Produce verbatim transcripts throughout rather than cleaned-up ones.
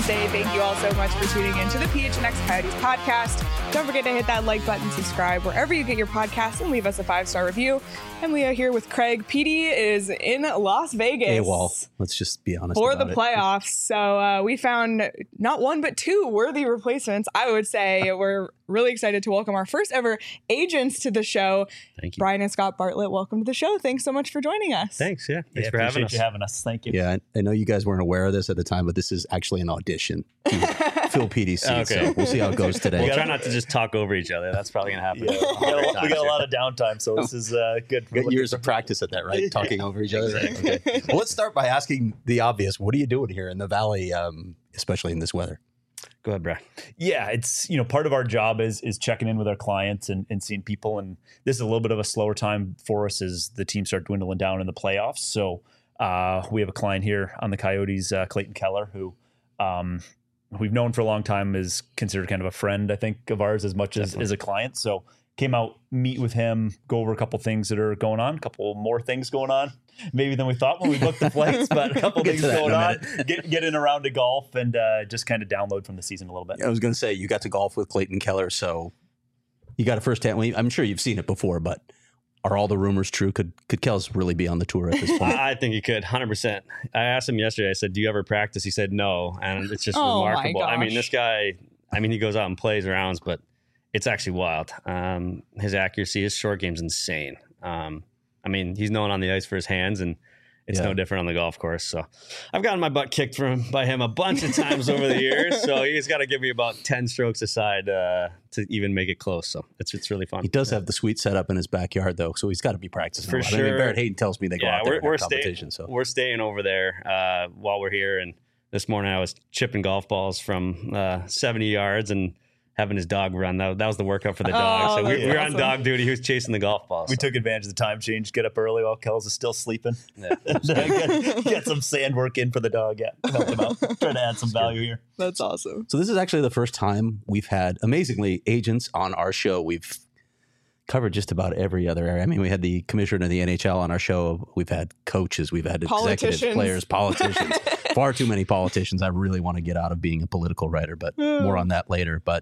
say thank you all so much for tuning in to the P H N X Coyotes podcast. Don't forget to hit that like button, subscribe wherever you get your podcasts, and leave us a five-star review. And we are here with Craig. P D is in Las Vegas. AWOL. Let's just be honest for about the it. playoffs. So uh, we found not one but two worthy replacements. I would say we're really excited to welcome our first ever agents to the show. Thank you. Brian and Scott Bartlett, welcome to the show. Thanks so much for joining us. Thanks. Yeah. Thanks yeah, for having us. you having us. Thank you. Yeah, I know you guys weren't aware of this at the time, but this is actually an audition to fill P D's seat. Okay. So we'll see how it goes today. We'll try not to just talk over each other. That's probably going to happen. Yeah. we, got a, lot- we got a lot of downtime, so this is uh, good. You got years of practice at that, right? Talking over each other. Okay. Well, let's start by asking the obvious. What are you doing here in the Valley, um, especially in this weather? Go ahead, Brad. Yeah, it's, you know, part of our job is is checking in with our clients and, and seeing people. And this is a little bit of a slower time for us as the teams start dwindling down in the playoffs. So uh, we have a client here on the Coyotes, uh, Clayton Keller, who um, we've known for a long time, is considered kind of a friend, I think, of ours as much as, as a client. So came out, meet with him, go over a couple things that are going on, a couple more things going on, maybe than we thought when we booked the flights, but a couple We'll things get to that going in a on. minute. Get, get in around to golf and uh, just kind of download from the season a little bit. I was going to say, you got to golf with Clayton Keller, so you got a first-hand. well, I'm sure you've seen it before, but are all the rumors true? Could could Kels really be on the tour at this point? I I think he could, one hundred percent. I asked him yesterday, I said, do you ever practice? He said no, and it's just Oh, my remarkable. I mean, gosh. this guy, I mean, he goes out and plays rounds, but it's actually wild. Um, his accuracy, his short game's insane. Um, I mean, he's known on the ice for his hands, and it's Yeah. no different on the golf course. So I've gotten my butt kicked from by him a bunch of times over the years. So he's got to give me about ten strokes aside uh, to even make it close. So it's it's really fun. He does have the sweet setup in his backyard, though, so he's got to be practicing. For a lot. I mean, sure. Barrett Hayden tells me they go Yeah, out there we're and we're have staying competition. So we're staying over there uh, while we're here. And this morning I was chipping golf balls from uh, seventy yards and having his dog run. That, that was the workout for the dog. Oh, so we, that's we were awesome. on dog duty. He was chasing the golf balls. We so. took advantage of the time change, get up early while Kels is still sleeping. Yeah. get, get some sand work in for the dog. Yeah, help him out. Trying to add some value here. That's awesome. So this is actually the first time we've had, amazingly, agents on our show. We've covered just about every other area. I mean, we had the commissioner of the N H L on our show. We've had coaches. We've had executives, Politicians. players, politicians. Far too many politicians. I really want to get out of being a political writer, but more on that later. But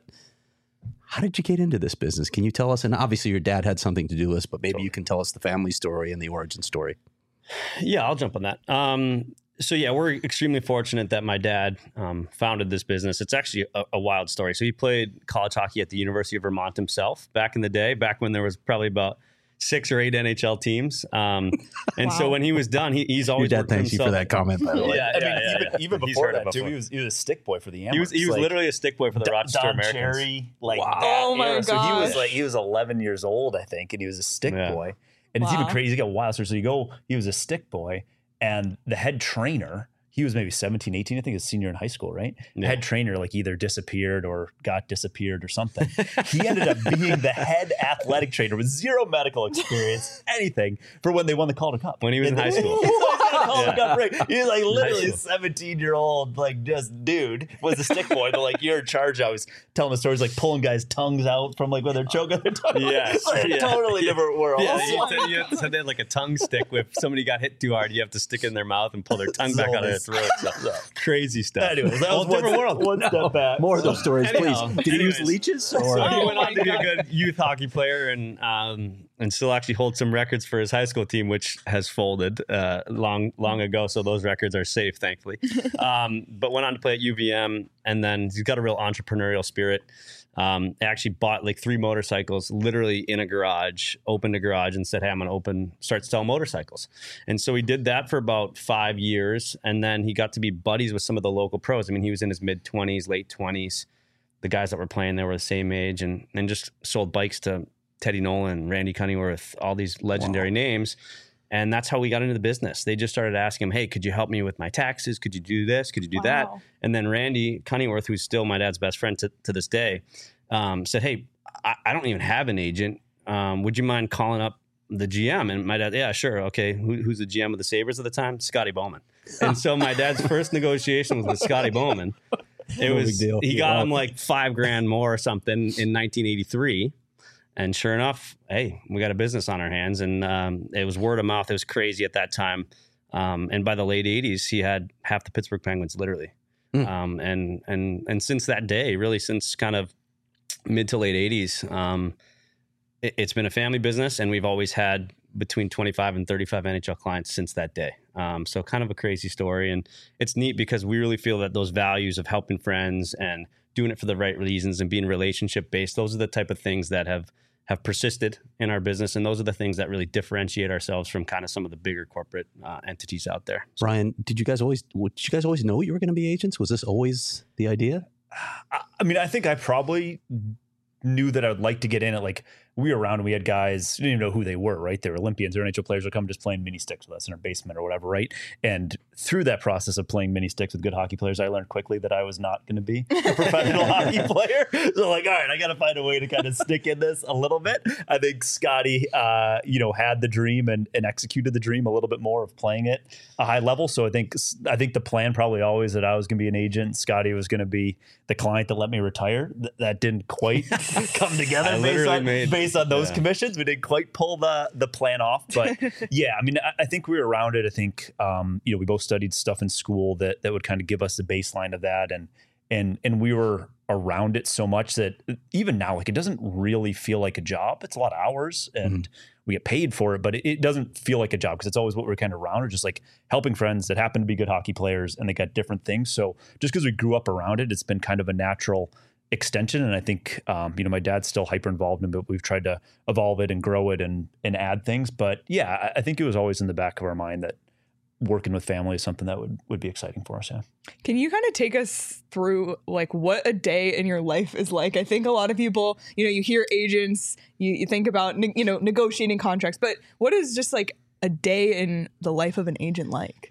how did you get into this business? Can you tell us? And obviously your dad had something to do with this, but maybe you can tell us the family story and the origin story. Yeah, I'll jump on that. Um, so yeah, we're extremely fortunate that my dad um, founded this business. It's actually a, a wild story. So he played college hockey at the University of Vermont himself back in the day, back when there was probably about six or eight N H L teams. Um, and Wow. so when he was done, he, he's Your always dad worked for thanks you for himself. that comment, by the way. Yeah, I mean, yeah, yeah, even, yeah. even He's before heard it that, too, before. he was he was a stick boy for the Amherst. He was he was like, literally a stick boy for the Don- Rochester Don Americans. Cherry, like Wow. that Oh my era. So he was gosh. like he was eleven years old, I think, and he was a stick Yeah. boy. And it's even Wow. crazy. Got wild. So you go, he was a stick boy, and the head trainer, he was maybe seventeen, eighteen, I think, a senior in high school, right? The Yeah. head trainer like either disappeared or got disappeared or something. He ended up being the head athletic trainer with zero medical experience, anything, for when they won the Calder Cup. When he was in high school. He's like, got a Calder Yeah. Cup ring. He's like literally school. seventeen year old, like just dude was a stick boy. But like you're in charge. I was telling the stories like pulling guys' tongues out from like when they're choking their tongue. Yes. It's like a Yeah. totally different world. Yeah, Oh you, my said, you have to have that like a tongue stick. If somebody got hit too hard, you have to stick it in their mouth and pull their tongue back out of their throat. So, crazy stuff. Anyways, that Whole was different one, world. one step back. More of those stories, Anyhow, please. Did he use anyways. leeches? So Or? he Oh went on my to be a God. good youth hockey player and um, and still actually holds some records for his high school team, which has folded uh, long long ago. So those records are safe, thankfully. Um, but went on to play at U V M, and then he's got a real entrepreneurial spirit. Um, actually bought like three motorcycles literally in a garage, opened a garage and said, hey, I'm going to open, start to sell motorcycles. And so he did that for about five years. And then he got to be buddies with some of the local pros. I mean, he was in his mid twenties, late twenties. The guys that were playing there were the same age, and, and just sold bikes to Teddy Nolan, Randy Cunningworth, all these legendary Wow. names. And that's how we got into the business. They just started asking him, hey, could you help me with my taxes? Could you do this? Could you do that? Wow. And then Randy Cunningworth, who's still my dad's best friend to, to this day, um, said, hey, I, I don't even have an agent. Um, would you mind calling up the G M? And my dad, yeah, sure. Okay. Who, who's the G M of the Sabres at the time? Scotty Bowman. And so my dad's first negotiation was with Scotty Bowman. It No was, big deal. he got Wow. him like five grand more or something in nineteen eighty-three. And sure enough, hey, we got a business on our hands, and um, it was word of mouth. It was crazy at that time. Um, and by the late eighties, he had half the Pittsburgh Penguins, literally. Mm. Um, and, and, and since that day, really since kind of mid to late eighties, um, it, it's been a family business, and we've always had between twenty-five and thirty-five N H L clients since that day. Um, so kind of a crazy story. And it's neat because we really feel that those values of helping friends and doing it for the right reasons and being relationship based, those are the type of things that have, have persisted in our business. And those are the things that really differentiate ourselves from kind of some of the bigger corporate uh, entities out there. So, Brian, did you guys always, did you guys always know you were going to be agents? Was this always the idea? I mean, I think I probably knew that I would like to get in it. Like, we were around and we had guys, you didn't even know who they were, right? They were Olympians or N H L players would come just playing mini sticks with us in our basement or whatever, right? And through that process of playing mini sticks with good hockey players, I learned quickly that I was not going to be a professional hockey player. So like, all right, I got to find a way to kind of stick in this a little bit. I think Scotty, uh, you know, had the dream and, and executed the dream a little bit more of playing it a high level. So I think, I think the plan probably always that I was going to be an agent. Scotty was going to be the client that let me retire. Th- that didn't quite come together based on, made, based on those yeah. commissions. We didn't quite pull the the plan off, but yeah, I mean, I, I think we were around it. I think, um, you know, we both studied stuff in school that that would kind of give us the baseline of that, and and and we were around it so much that even now, like, it doesn't really feel like a job. It's a lot of hours, and mm-hmm. we get paid for it, but it, it doesn't feel like a job because it's always what we're kind of around, or just like helping friends that happen to be good hockey players, and they got different things. So just because we grew up around it, it's been kind of a natural extension. And I think, um, you know, my dad's still hyper involved in it, but we've tried to evolve it and grow it and, and add things. But yeah, I, I think it was always in the back of our mind that working with family is something that would, would be exciting for us. Yeah. Can you kind of take us through like what a day in your life is like? I think a lot of people, you know, you hear agents, you, you think about, ne- you know, negotiating contracts, but what is just like a day in the life of an agent like?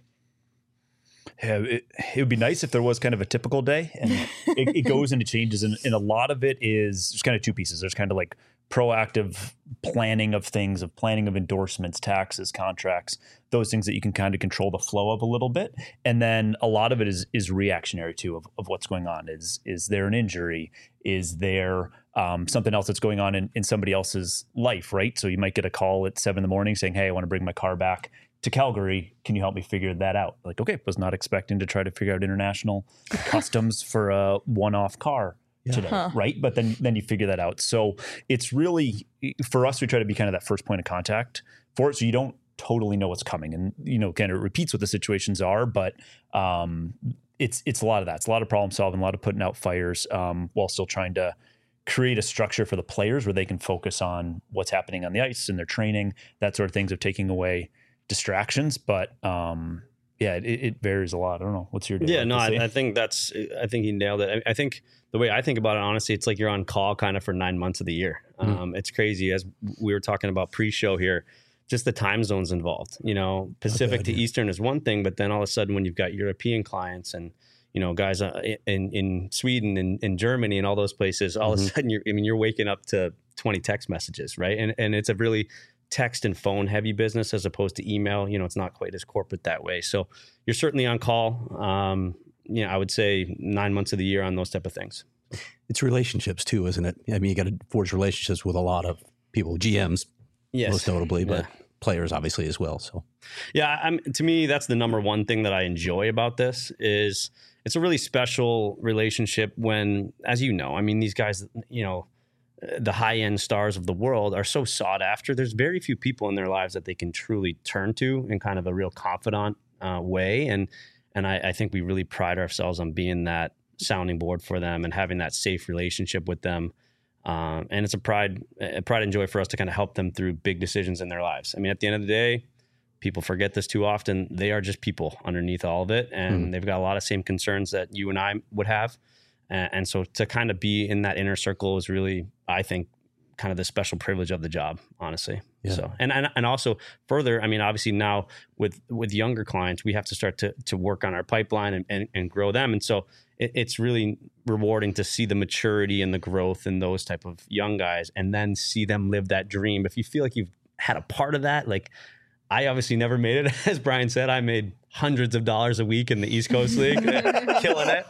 Yeah, it, it would be nice if there was kind of a typical day, and it, it goes into changes. And, and a lot of it is there's kind of two pieces. There's kind of like proactive planning of things, of planning of endorsements, taxes, contracts, those things that you can kind of control the flow of a little bit. And then a lot of it is is reactionary too, of, of what's going on. Is is there an injury? Is there um, something else that's going on in, in somebody else's life, right? So you might get a call at seven in the morning saying, hey, I want to bring my car back to Calgary. Can you help me figure that out? Like, okay, was not expecting to try to figure out international customs for a one-off car yeah. today, huh. right? But then then you figure that out. So it's really, for us, we try to be kind of that first point of contact for it, so you don't totally know what's coming. And, you know, kind of repeats what the situations are, but um, it's it's a lot of that. It's a lot of problem solving, a lot of putting out fires um, while still trying to create a structure for the players where they can focus on what's happening on the ice and their training, that sort of things, of taking away distractions. But um yeah, it, it varies a lot. I don't know. What's your day? Yeah, like no, I, I think that's, I think he nailed it. I, I think the way I think about it, honestly, it's like you're on call kind of for nine months of the year. Mm-hmm. Um, it's crazy. As we were talking about pre-show here, just the time zones involved, you know, Pacific okay, to yeah. Eastern is one thing, but then all of a sudden when you've got European clients and, you know, guys uh, in, in Sweden and in Germany and all those places, all mm-hmm. of a sudden you're, I mean, you're waking up to twenty text messages, right? And and it's a really text and phone heavy business as opposed to email. You know, it's not quite as corporate that way. So you're certainly on call. Um, you know, I would say nine months of the year on those type of things. It's relationships too, isn't it? I mean, you got to forge relationships with a lot of people, G Ms, yes. most notably, but yeah. players obviously as well. So yeah, I'm, to me, that's the number one thing that I enjoy about this is it's a really special relationship when, as you know, I mean, these guys, you know, the high-end stars of the world are so sought after. There's very few people in their lives that they can truly turn to in kind of a real confidant uh, way. And and I, I think we really pride ourselves on being that sounding board for them and having that safe relationship with them. Um, and it's a pride, a pride and joy for us to kind of help them through big decisions in their lives. I mean, at the end of the day, people forget this too often. They are just people underneath all of it. And mm. they've got a lot of same concerns that you and I would have. And so to kind of be in that inner circle is really, I think, kind of the special privilege of the job, honestly. Yeah. So, and, and and also further, I mean, obviously now with with younger clients, we have to start to to work on our pipeline and, and, and grow them. And so it, it's really rewarding to see the maturity and the growth in those type of young guys and then see them live that dream. If you feel like you've had a part of that, like I obviously never made it. As Brian said, I made hundreds of dollars a week in the East Coast League, killing it.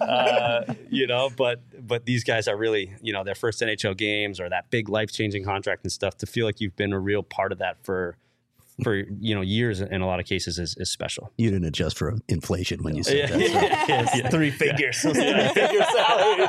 Uh, you know, but but these guys are really, you know, their first N H L games or that big life-changing contract and stuff, to feel like you've been a real part of that for for, you know, years in a lot of cases is, is special. You didn't adjust for inflation when you said Yeah. that. So. Yes, yeah. Three figures. Three figure salaries.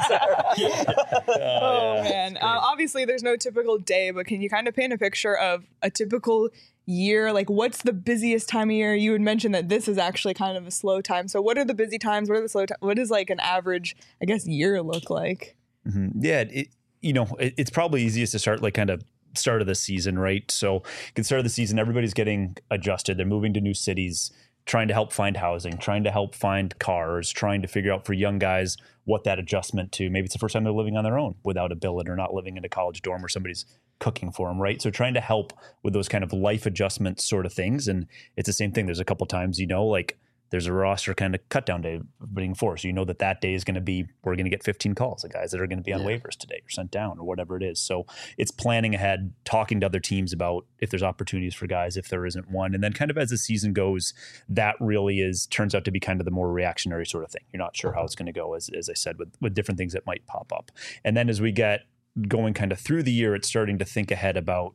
Oh, man. Uh, obviously, there's no typical day, but can you kind of paint a picture of a typical year? Like, what's the busiest time of year? You had mentioned that this is actually kind of a slow time. So what are the busy times? What are the slow times? What does like an average, I guess, year look like? Mm-hmm. Yeah, it, you know, it, it's probably easiest to start like kind of start of the season, right? So, at the start of the season, everybody's getting adjusted. They're moving to new cities, trying to help find housing, trying to help find cars, trying to figure out for young guys what that adjustment to. Maybe it's the first time they're living on their own without a billet or not living in a college dorm where somebody's cooking for them, right? So trying to help with those kind of life adjustment sort of things. And it's the same thing. There's a couple times, you know, like there's a roster kind of cut down day being forced. So you know that that day is going to be, we're going to get fifteen calls of guys that are going to be on yeah. waivers today or sent down or whatever it is. So it's planning ahead, talking to other teams about if there's opportunities for guys, if there isn't one. And then kind of as the season goes, that really is, turns out to be kind of the more reactionary sort of thing. You're not sure how it's going to go, as, as I said, with, with different things that might pop up. And then as we get going kind of through the year, it's starting to think ahead about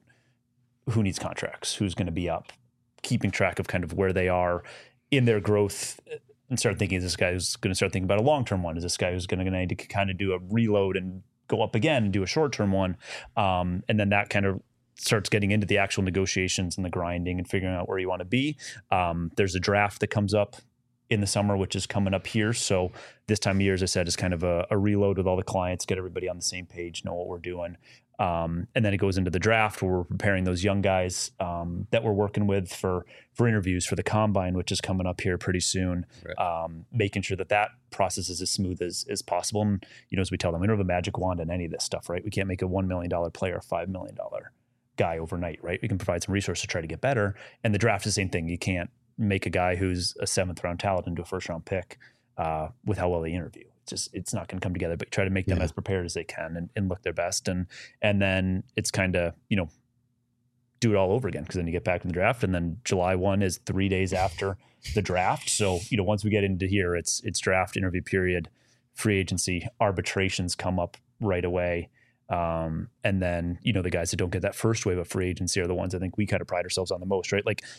who needs contracts, who's going to be up, keeping track of kind of where they are in their growth, and start thinking, is this guy who's going to start thinking about a long-term one? Is this guy who's going to need to kind of do a reload and go up again and do a short-term one? Um, and then that kind of starts getting into the actual negotiations and the grinding and figuring out where you want to be. Um, there's a draft that comes up in the summer, which is coming up here. So this time of year, as I said, is kind of a, a reload with all the clients, get everybody on the same page, know what we're doing. Um, and then it goes into the draft where we're preparing those young guys um, that we're working with for for interviews for the combine, which is coming up here pretty soon. Right. Um, making sure that that process is as smooth as, as possible. And, you know, as we tell them, we don't have a magic wand in any of this stuff, right? We can't make a one million dollars player a five million dollars guy overnight, right? We can provide some resources to try to get better. And the draft is the same thing. You can't make a guy who's a seventh round talent into a first round pick uh, with how well they interview. It's just, it's not going to come together, but try to make them yeah. as prepared as they can and, and look their best. And, and then it's kind of, you know, do it all over again. Cause then you get back in the draft, and then July first is three days after the draft. So, you know, once we get into here, it's, it's draft, interview period, free agency, arbitrations come up right away. Um, and then, you know, the guys that don't get that first wave of free agency are the ones I think we kind of pride ourselves on the most, right? Like,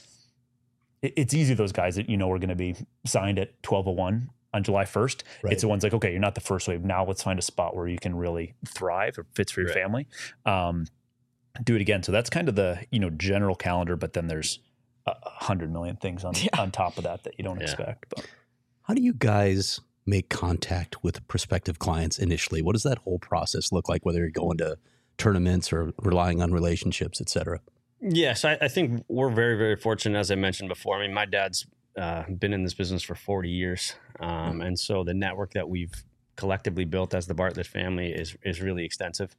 it's easy, those guys that, you know, are going to be signed at twelve oh one on July first. Right. It's the ones like, okay, you're not the first wave. Now let's find a spot where you can really thrive or fits for your right. family. Um, do it again. So that's kind of the, you know, general calendar, but then there's a hundred million things on, yeah. on top of that that you don't yeah. expect. But how do you guys make contact with prospective clients initially? What does that whole process look like, whether you're going to tournaments or relying on relationships, et cetera? Yes, I, I think we're very, very fortunate, as I mentioned before. I mean, my dad's uh, been in this business for forty years. Um, and so the network that we've collectively built as the Bartlett family is is really extensive.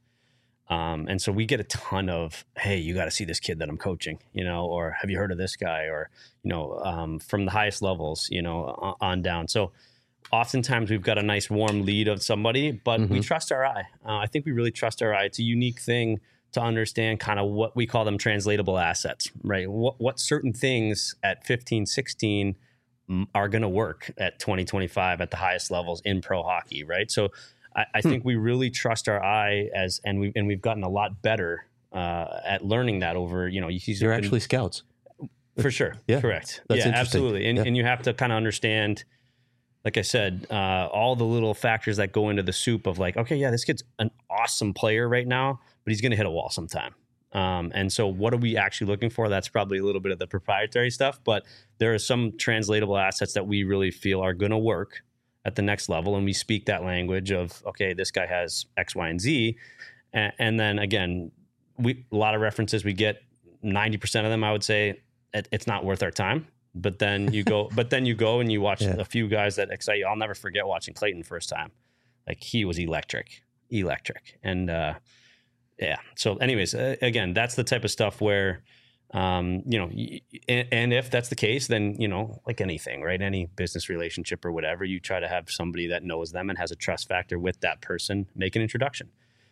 Um, and so we get a ton of, hey, you got to see this kid that I'm coaching, you know, or have you heard of this guy? Or, you know, um, from the highest levels, you know, on down. So oftentimes we've got a nice warm lead of somebody, but mm-hmm. we trust our eye. Uh, I think we really trust our eye. It's a unique thing to understand kind of what we call them translatable assets, right? What, what certain things at fifteen, sixteen are going to work at twenty, twenty-five at the highest levels in pro hockey, right? So I, I hmm. think we really trust our eye as, and we've, and we've gotten a lot better uh, at learning that over, you know, he's You're been, actually scouts. For sure. Yeah. Correct. That's yeah, absolutely. And, yeah. and you have to kind of understand, like I said, uh, all the little factors that go into the soup of like, okay, yeah, this kid's an awesome player right now, but he's going to hit a wall sometime. Um, and so what are we actually looking for? That's probably a little bit of the proprietary stuff, but there are some translatable assets that we really feel are going to work at the next level. And we speak that language of, okay, this guy has X, Y, and Z. And, and then again, we, a lot of references, we get ninety percent of them, I would say it, it's not worth our time. But then you go, but then you go and you watch yeah. a few guys that excite you. I'll never forget watching Clayton first time. Like he was electric, electric. And, uh, yeah. So anyways, uh, again, that's the type of stuff where, um, you know, y- and, and if that's the case, then, you know, like anything, right? Any business relationship or whatever, you try to have somebody that knows them and has a trust factor with that person, make an introduction.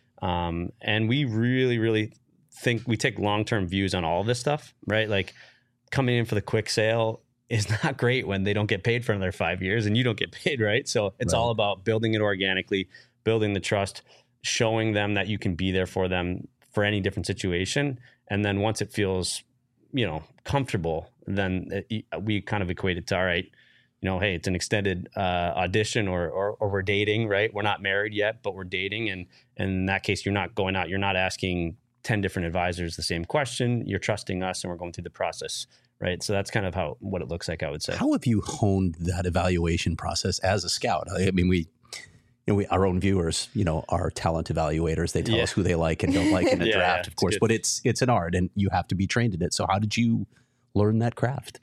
Um, and we really, really think we take long-term views on all of this stuff, right? Like, coming in for the quick sale is not great when they don't get paid for another five years and you don't get paid, right? So it's right. all about building it organically, building the trust, showing them that you can be there for them for any different situation. And then once it feels you know, comfortable, then it, we kind of equate it to, all right, you know, hey, it's an extended uh, audition or, or or we're dating, right? We're not married yet, but we're dating. And, and in that case, you're not going out. You're not asking ten different advisors the same question. You're trusting us and we're going through the process, right? So that's kind of how what it looks like, I would say. How have you honed that evaluation process as a scout? I mean, we... You know, we, our own viewers, you know, are talent evaluators. They tell Yeah. us who they like and don't like in a Yeah, draft, yeah, of course. good. But it's it's an art, and you have to be trained in it. So, how did you learn that craft?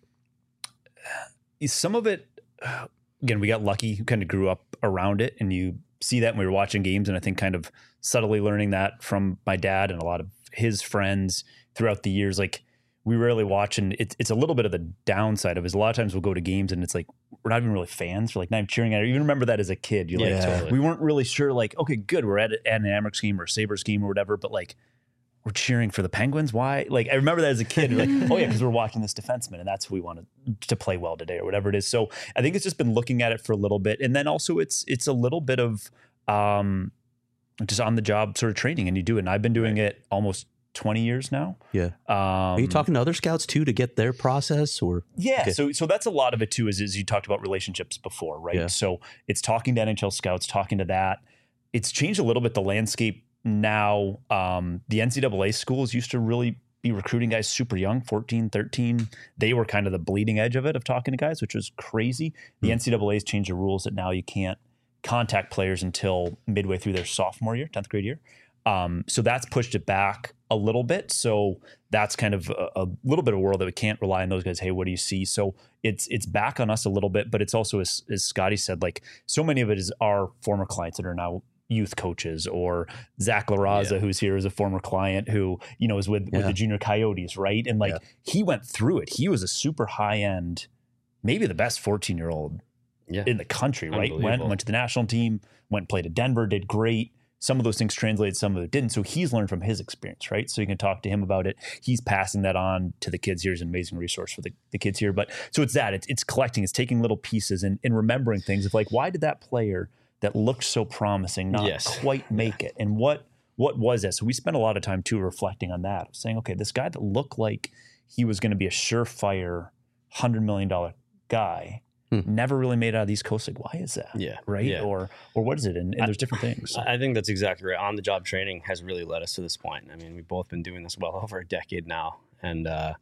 Some of it, again, we got lucky, kind of grew up around it, and you see that when we were watching games, and I think kind of subtly learning that from my dad and a lot of his friends throughout the years. Like, we rarely watch, and it's it's a little bit of the downside of it. Is a lot of times we'll go to games and it's like we're not even really fans. We're like not even cheering at it. You even remember that as a kid. You're Yeah, like, totally. we weren't really sure. Like, okay, good, we're at, at an Amerks game or a Sabres game or whatever, but like we're cheering for the Penguins. Why? Like, I remember that as a kid. You're like, oh yeah, because we're watching this defenseman, and that's who we wanted to play well today, or whatever it is. So I think it's just been looking at it for a little bit, and then also it's it's a little bit of um, just on the job sort of training, and you do it. And I've been doing it almost twenty years now. Yeah. Um, Are you talking to other scouts too to get their process, or Yeah, Okay. so so that's a lot of it too. Is is you talked about relationships before, right? Yeah. So it's talking to N H L scouts, talking to that. It's changed a little bit the landscape now. Um, the N C double A schools used to really be recruiting guys super young, fourteen, thirteen. They were kind of the bleeding edge of it of talking to guys, which was crazy. The Hmm. N C double A's changed the rules that now you can't contact players until midway through their sophomore year, tenth grade year. Um, so that's pushed it back a little bit. So that's kind of a, a little bit of a world that we can't rely on those guys. Hey, what do you see? So it's it's back on us a little bit, but it's also, as, as Scotty said, like so many of it is our former clients that are now youth coaches, or Zach LaRaza, Yeah. who's here as a former client who, you know, is with, with Yeah. the junior Coyotes, right? And like Yeah. he went through it. He was a super high end, maybe the best fourteen year old Yeah. in the country, right? Went Unbelievable. went to the national team, went and played at Denver, did great. Some of those things translated, some of it didn't. So he's learned from his experience, right? So you can talk to him about it. He's passing that on to the kids here. He's an amazing resource for the, the kids here. But so it's that. It's, it's collecting. It's taking little pieces and, and remembering things of like, why did that player that looked so promising not Yes. quite make it? And what what was that? So we spent a lot of time too reflecting on that, saying, okay, this guy that looked like he was going to be a surefire one hundred million dollars guy Hmm. never really made it out of the East Coast. Like, why is that? Yeah. Right? Yeah. Or or what is it? And, and there's different things. I think that's exactly right. On the job training has really led us to this point. I mean, we've both been doing this well over a decade now. And uh,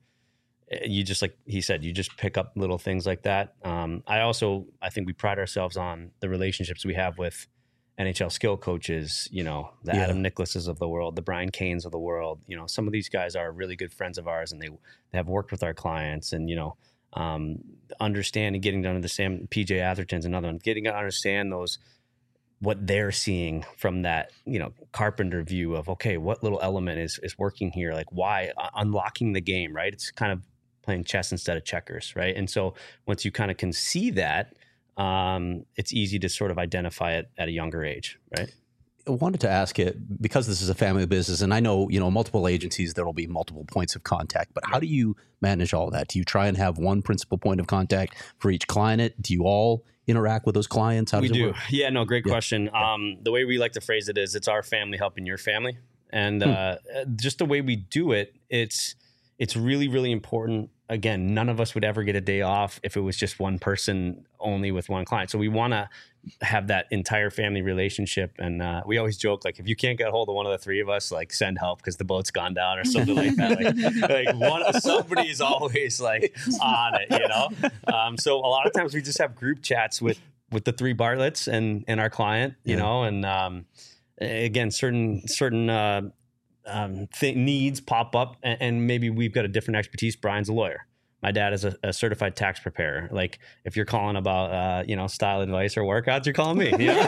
you just, like he said, you just pick up little things like that. Um, I also, I think we pride ourselves on the relationships we have with N H L skill coaches, you know, the Yeah. Adam Nicholases of the world, the Brian Canes of the world. You know, some of these guys are really good friends of ours, and they, they have worked with our clients, and, you know, um, understanding, getting to understand P J Atherton's another one, getting to understand those, what they're seeing from that, you know, carpenter view of, okay, what little element is, is working here? Like why uh, unlocking the game, right? It's kind of playing chess instead of checkers. Right. And so once you kind of can see that, um, it's easy to sort of identify it at a younger age. Right. I wanted to ask it because this is a family business, and I know, you know, multiple agencies, there will be multiple points of contact, but how do you manage all that? Do you try and have one principal point of contact for each client? Do you all interact with those clients? How does We it do. work? Yeah, no, great Yeah. question. Um, the way we like to phrase it is it's our family helping your family. And uh, just the way we do it, it's it's really, really important. Again, none of us would ever get a day off if it was just one person only with one client. So we want to have that entire family relationship. And uh, we always joke, like, if you can't get a hold of one of the three of us, like, send help because the boat's gone down or something like that. Like, like one, somebody's always like on it, you know? Um, so a lot of times we just have group chats with, with the three Bartletts and, and our client, you Yeah. know, and um, again, certain, certain, uh, um, th- needs pop up, and, and maybe we've got a different expertise. Brian's a lawyer. My dad is a, a certified tax preparer. Like if you're calling about, uh, you know, style advice or workouts, you're calling me. You know?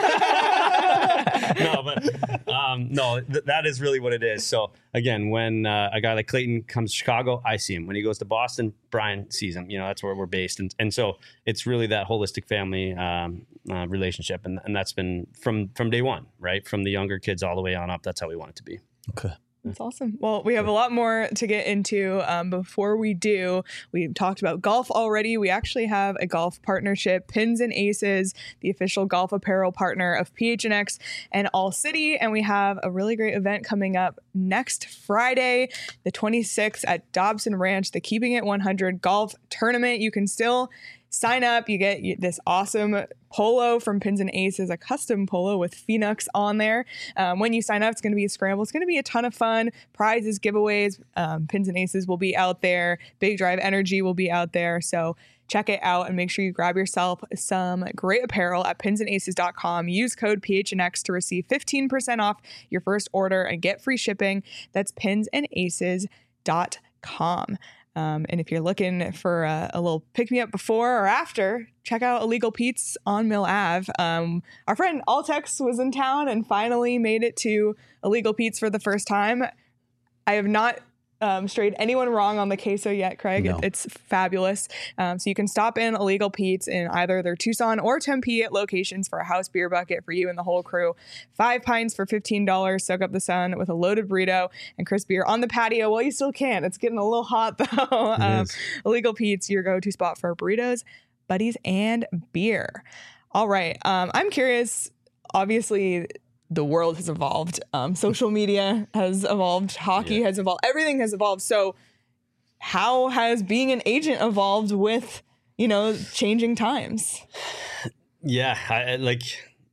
no, but um, no, th- that is really what it is. So again, when uh, a guy like Clayton comes to Chicago, I see him. When he goes to Boston, Brian sees him. You know, that's where we're based, and and so it's really that holistic family um, uh, relationship, and and that's been from from day one, right? From the younger kids all the way on up. That's how we want it to be. Okay. That's awesome. Well, we have a lot more to get into. Um, before we do, we talked about golf already. We actually have a golf partnership, Pins and Aces, the official golf apparel partner of P H N X and All City. And we have a really great event coming up next Friday, the twenty-sixth at Dobson Ranch, the Keeping It one hundred golf tournament. You can still sign up. You get this awesome polo from Pins and Aces, a custom polo with Phoenix on there. Um, when you sign up, it's going to be a scramble. It's going to be a ton of fun. Prizes, giveaways. Um, Pins and Aces will be out there. Big Drive Energy will be out there. So check it out and make sure you grab yourself some great apparel at pins and aces dot com. Use code P H N X to receive fifteen percent off your first order and get free shipping. That's pins and aces dot com. Um, and if you're looking for a, a little pick-me-up before or after, check out Illegal Pete's on Mill Ave. Um, our friend Altex was in town and finally made it to Illegal Pete's for the first time. I have not um, strayed anyone wrong on the queso yet, Craig. No. It, it's fabulous. Um, so you can stop in Illegal Pete's in either their Tucson or Tempe locations for a house beer bucket for you and the whole crew. Five pints for fifteen dollars. Soak up the sun with a loaded burrito and crisp beer on the patio. Well, you still can. It's getting a little hot, though. um, Illegal Pete's, your go-to spot for burritos, buddies, and beer. All right. Um, I'm curious, obviously, the world has evolved. Um, social media has evolved. Hockey yeah. has evolved. Everything has evolved. So how has being an agent evolved with, you know, changing times? Yeah, I, like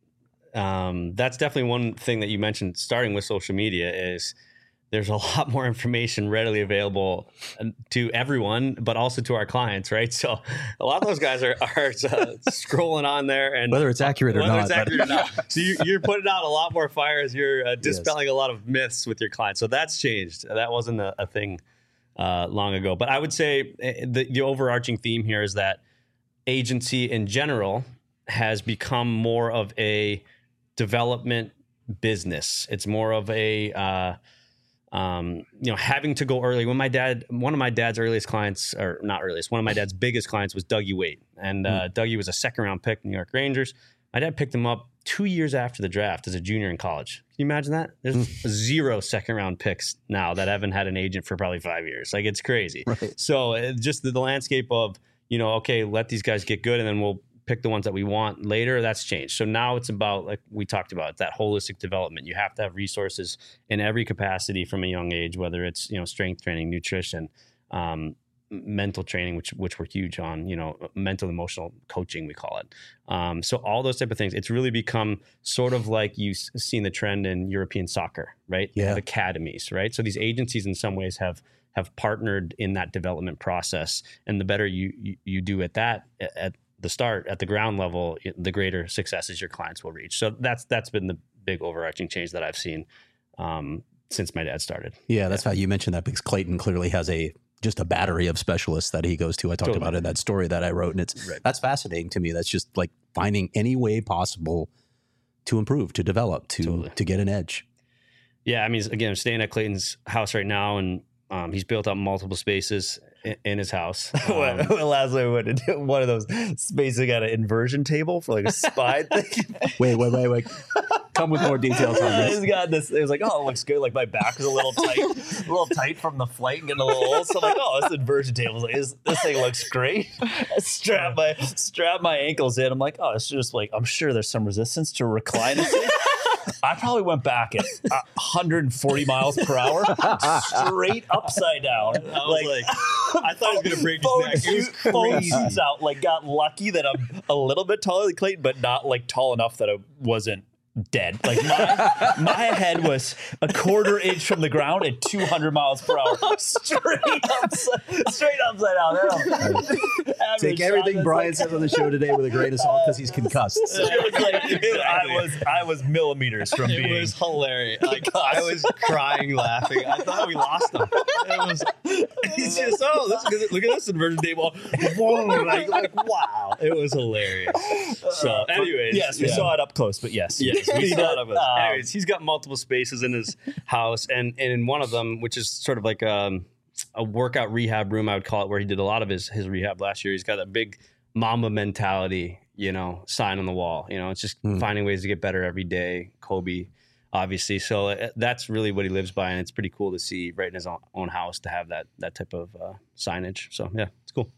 um, that's definitely one thing that you mentioned, starting with social media, is there's a lot more information readily available to everyone, but also to our clients, right? So a lot of those guys are, are uh, scrolling on there, and whether it's accurate or whether not. It's accurate or not. So you, you're putting out a lot more fires. You're uh, dispelling yes. a lot of myths with your clients. So that's changed. That wasn't a, a thing uh, long ago. But I would say the, the overarching theme here is that agency in general has become more of a development business. It's more of a uh, Um, you know, having to go early. When my dad, one of my dad's earliest clients, or not earliest, one of my dad's biggest clients was Dougie Waite. And uh, mm. Dougie was a second round pick, New York Rangers. My dad picked him up two years after the draft as a junior in college. Can you imagine that? There's mm. zero second round picks now that haven't had an agent for probably five years. Like, it's crazy. Right. So uh, just the, the landscape of, you know, okay, let these guys get good and then we'll pick the ones that we want later, that's changed. So now it's about, like we talked about, that holistic development. You have to have resources in every capacity from a young age, whether it's, you know, strength training, nutrition, um, mental training, which which we're huge on, you know, mental emotional coaching, we call it. Um, so all those type of things, it's really become sort of like you've seen the trend in European soccer, right? Yeah. They have academies, right? So these agencies in some ways have have partnered in that development process. And the better you you, you do at that, at the start, at the ground level, the greater successes your clients will reach. So that's that's been the big overarching change that I've seen um, since my dad started. Yeah, that's yeah. how you mentioned that, because Clayton clearly has a just a battery of specialists that he goes to. I talked totally. about it in that story that I wrote, and it's right. that's fascinating to me. That's just like finding any way possible to improve, to develop, to totally. to get an edge. Yeah, I mean, again, I'm staying at Clayton's house right now, and um, he's built up multiple spaces in, in his house. Um, Last time I went to do one of those spaces, got an inversion table for like a spine thing. Wait, wait, wait, wait. Come with more details on this. It's got this. It was like, oh, it looks good. Like my back is a little tight, a little tight from the flight and getting a little old. So I'm like, oh, this inversion table. Like, this, this thing looks great. I strap my strap my ankles in. I'm like, oh, it's just like, I'm sure there's some resistance to recline it. I probably went back at one hundred forty miles per hour, straight upside down. I was like, like I thought I was going to break his neck. It was crazy. Phones out. Like, got lucky that I'm a little bit taller than Clayton, but not like tall enough that I wasn't dead. Like my, my head was a quarter inch from the ground at two hundred miles per hour, straight upside, straight upside down. Take everything Brian like, says on the show today with a grain of salt because he's concussed. So. It was like, exactly. I was I was millimeters from it being. It was hilarious. Like, I was crying, laughing. I thought we lost him. It was. He's just oh, look at, look at this inversion table. Whoa, like, like wow, it was hilarious. So, anyways, yes, we yeah. saw it up close, but yes, yes. We saw it. Um, Anyways, he's got multiple spaces in his house, and, and in one of them, which is sort of like um, a workout rehab room, I would call it, where he did a lot of his his rehab last year. He's got a big Mamba mentality, you know, sign on the wall. You know, it's just mm. finding ways to get better every day. Kobe obviously. So uh, that's really what he lives by, and it's pretty cool to see right in his own, own house to have that that type of uh, signage. So yeah, it's cool.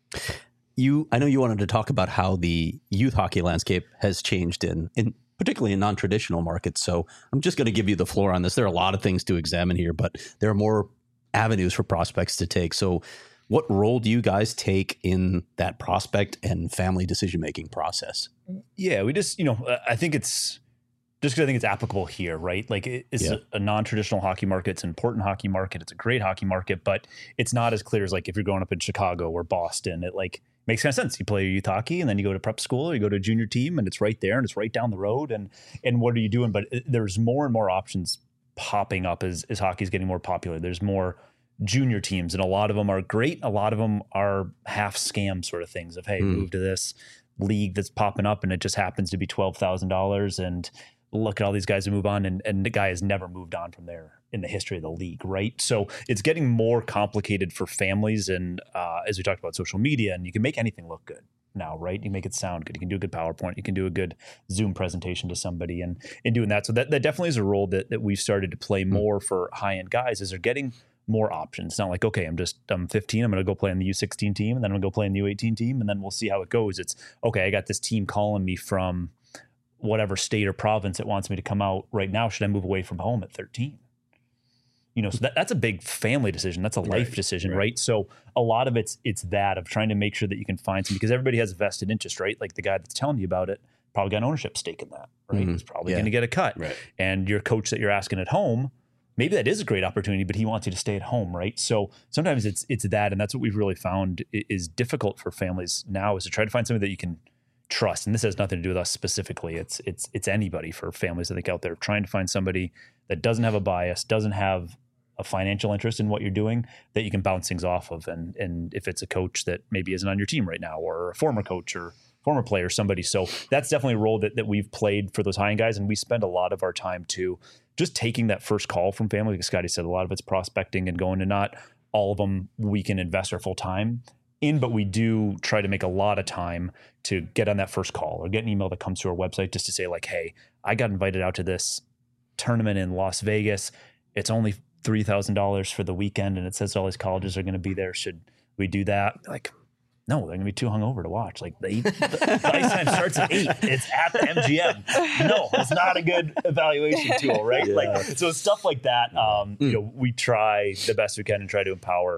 You, I know you wanted to talk about how the youth hockey landscape has changed in, in particularly in non-traditional markets. So I'm just going to give you the floor on this. There are a lot of things to examine here, but there are more avenues for prospects to take. So what role do you guys take in that prospect and family decision-making process? Yeah, we just, you know, I think it's just because I think it's applicable here, right? Like it's yeah. a, a non-traditional hockey market. It's an important hockey market. It's a great hockey market, but it's not as clear as like if you're growing up in Chicago or Boston, it like makes kind of sense. You play youth hockey and then you go to prep school or you go to a junior team and it's right there and it's right down the road. And, and what are you doing? But it, there's more and more options popping up as, as hockey is getting more popular. There's more junior teams and a lot of them are great. A lot of them are half scam sort of things of, hey, mm. move to this league that's popping up and it just happens to be twelve thousand dollars and look at all these guys who move on and, and the guy has never moved on from there in the history of the league, right? So it's getting more complicated for families and uh, as we talked about social media, and you can make anything look good now, right? You make it sound good. You can do a good PowerPoint. You can do a good Zoom presentation to somebody and in doing that. So that, that definitely is a role that, that we've started to play more for high-end guys is they're getting more options. It's not like, okay, I'm just, I'm fifteen. I'm going to go play on the U sixteen team and then I'm going to go play in the U eighteen team and then we'll see how it goes. It's, okay, I got this team calling me from whatever state or province it wants me to come out right now. Should I move away from home at thirteen? You know, so that, that's a life family decision. That's a life right, decision, right. right? So a lot of it's it's that of trying to make sure that you can find some, because everybody has a vested interest, right? Like the guy that's telling you about it probably got an ownership stake in that, right? Mm-hmm. He's probably yeah. going to get a cut. Right. And your coach that you're asking at home, maybe that is a great opportunity, but he wants you to stay at home, right? So sometimes it's it's that, and that's what we've really found is difficult for families now is to try to find somebody that you can trust. And this has nothing to do with us specifically. It's it's it's anybody for families I think out there trying to find somebody that doesn't have a bias, doesn't have a financial interest in what you're doing that you can bounce things off of. And and if it's a coach that maybe isn't on your team right now or a former coach or former player, somebody. So that's definitely a role that, that we've played for those high-end guys. And we spend a lot of our time too, just taking that first call from family. Like Scotty said, a lot of it's prospecting and going to not all of them we can invest our full time in, but we do try to make a lot of time to get on that first call or get an email that comes to our website just to say like, hey, I got invited out to this tournament in Las Vegas. It's only three thousand dollars for the weekend and it says all these colleges are going to be there. Should we do that? Like, no, they're going to be too hungover to watch. Like the, the, the ice time starts at eight. It's at the M G M. No, it's not a good evaluation tool, right? Yeah. Like so, stuff like that. Um, mm. You know, we try the best we can and try to empower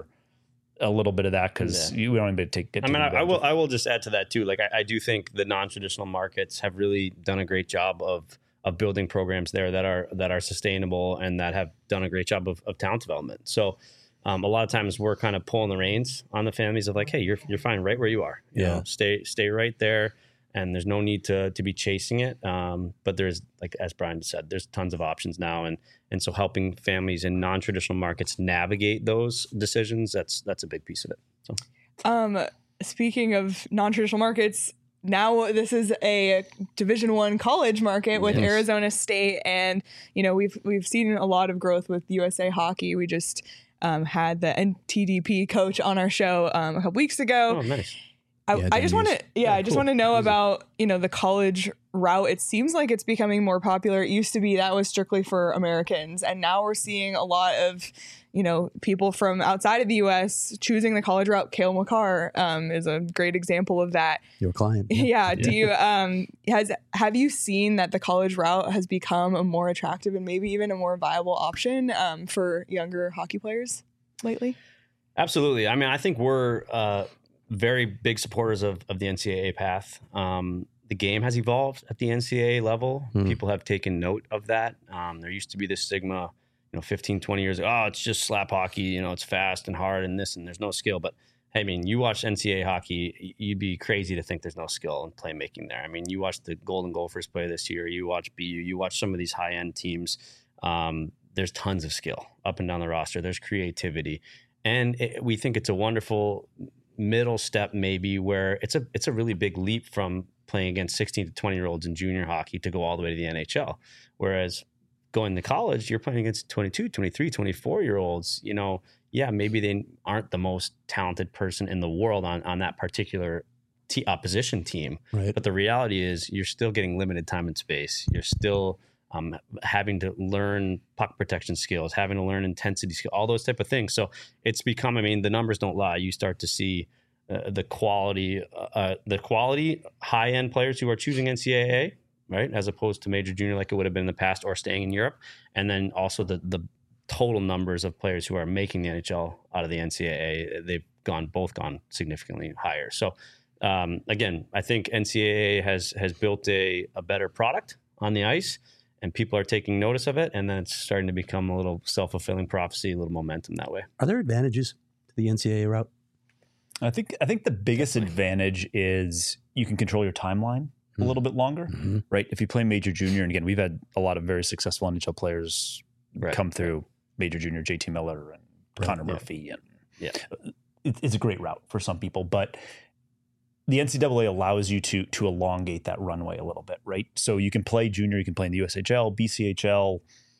a little bit of that because yeah. we don't even take. Get I mean, I, I will. I will just add to that too. Like I, I do think the non-traditional markets have really done a great job of of building programs there that are that are sustainable and that have done a great job of, of talent development. So. Um, a lot of times we're kind of pulling the reins on the families of like, hey, you're you're fine right where you are. You yeah. know, stay stay right there, and there's no need to to be chasing it. Um, but there's, like as Brian said, there's tons of options now, and and so helping families in non-traditional markets navigate those decisions, that's that's a big piece of it. So, um, speaking of non-traditional markets. Now this is a Division One college market with yes. Arizona State, and you know we've we've seen a lot of growth with U S A Hockey. We just um, had the N T D P coach on our show um, a couple weeks ago. Oh, nice. I, yeah, I just want to, yeah, yeah, I just cool. want to know Easy. about, you know, the college route. It seems like it's becoming more popular. It used to be that was strictly for Americans. And now we're seeing a lot of, you know, people from outside of the U S choosing the college route. Cale Makar um, is a great example of that. Your client. Yeah. yeah. Do you, um, has, have you seen that the college route has become a more attractive and maybe even a more viable option um, for younger hockey players lately? Absolutely. I mean, I think we're, uh, very big supporters of, of the N C double A path. Um, the game has evolved at the N C double A level. Mm. People have taken note of that. Um, there used to be this stigma, you know, fifteen, twenty years ago, oh, it's just slap hockey, you know, it's fast and hard and this, and there's no skill. But hey, I mean, you watch N C double A hockey, you'd be crazy to think there's no skill in playmaking there. I mean, you watch the Golden Gophers play this year, you watch B U, you watch some of these high-end teams. Um, there's tons of skill up and down the roster. There's creativity. And it, we think it's a wonderful middle step maybe where it's a it's a really big leap from playing against sixteen to twenty year olds in junior hockey to go all the way to the N H L. Whereas going to college, you're playing against twenty-two, twenty-three, twenty-four year olds, you know, yeah, maybe they aren't the most talented person in the world on, on that particular t- opposition team. Right. But the reality is you're still getting limited time and space. You're still um, having to learn puck protection skills, having to learn intensity skills, all those type of things. So it's become, I mean, the numbers don't lie. You start to see uh, the quality, uh, the quality high end players who are choosing N C A A, right, as opposed to major junior like it would have been in the past, or staying in Europe, and then also the the total numbers of players who are making the N H L out of the N C A A. They've gone both gone significantly higher. So um, again, I think N C A A has has built a a better product on the ice, and people are taking notice of it, and then it's starting to become a little self-fulfilling prophecy, a little momentum that way. Are there advantages to the N C A A route? I think I think the biggest Definitely. advantage is you can control your timeline mm-hmm. a little bit longer, mm-hmm. right? If you play major junior, and again, we've had a lot of very successful N H L players right. come through major junior, J T Miller and right. Connor yeah. Murphy, and yeah, it, it's a great route for some people, but the N C double A allows you to to elongate that runway a little bit, right? So you can play junior, you can play in the U S H L, B C H L,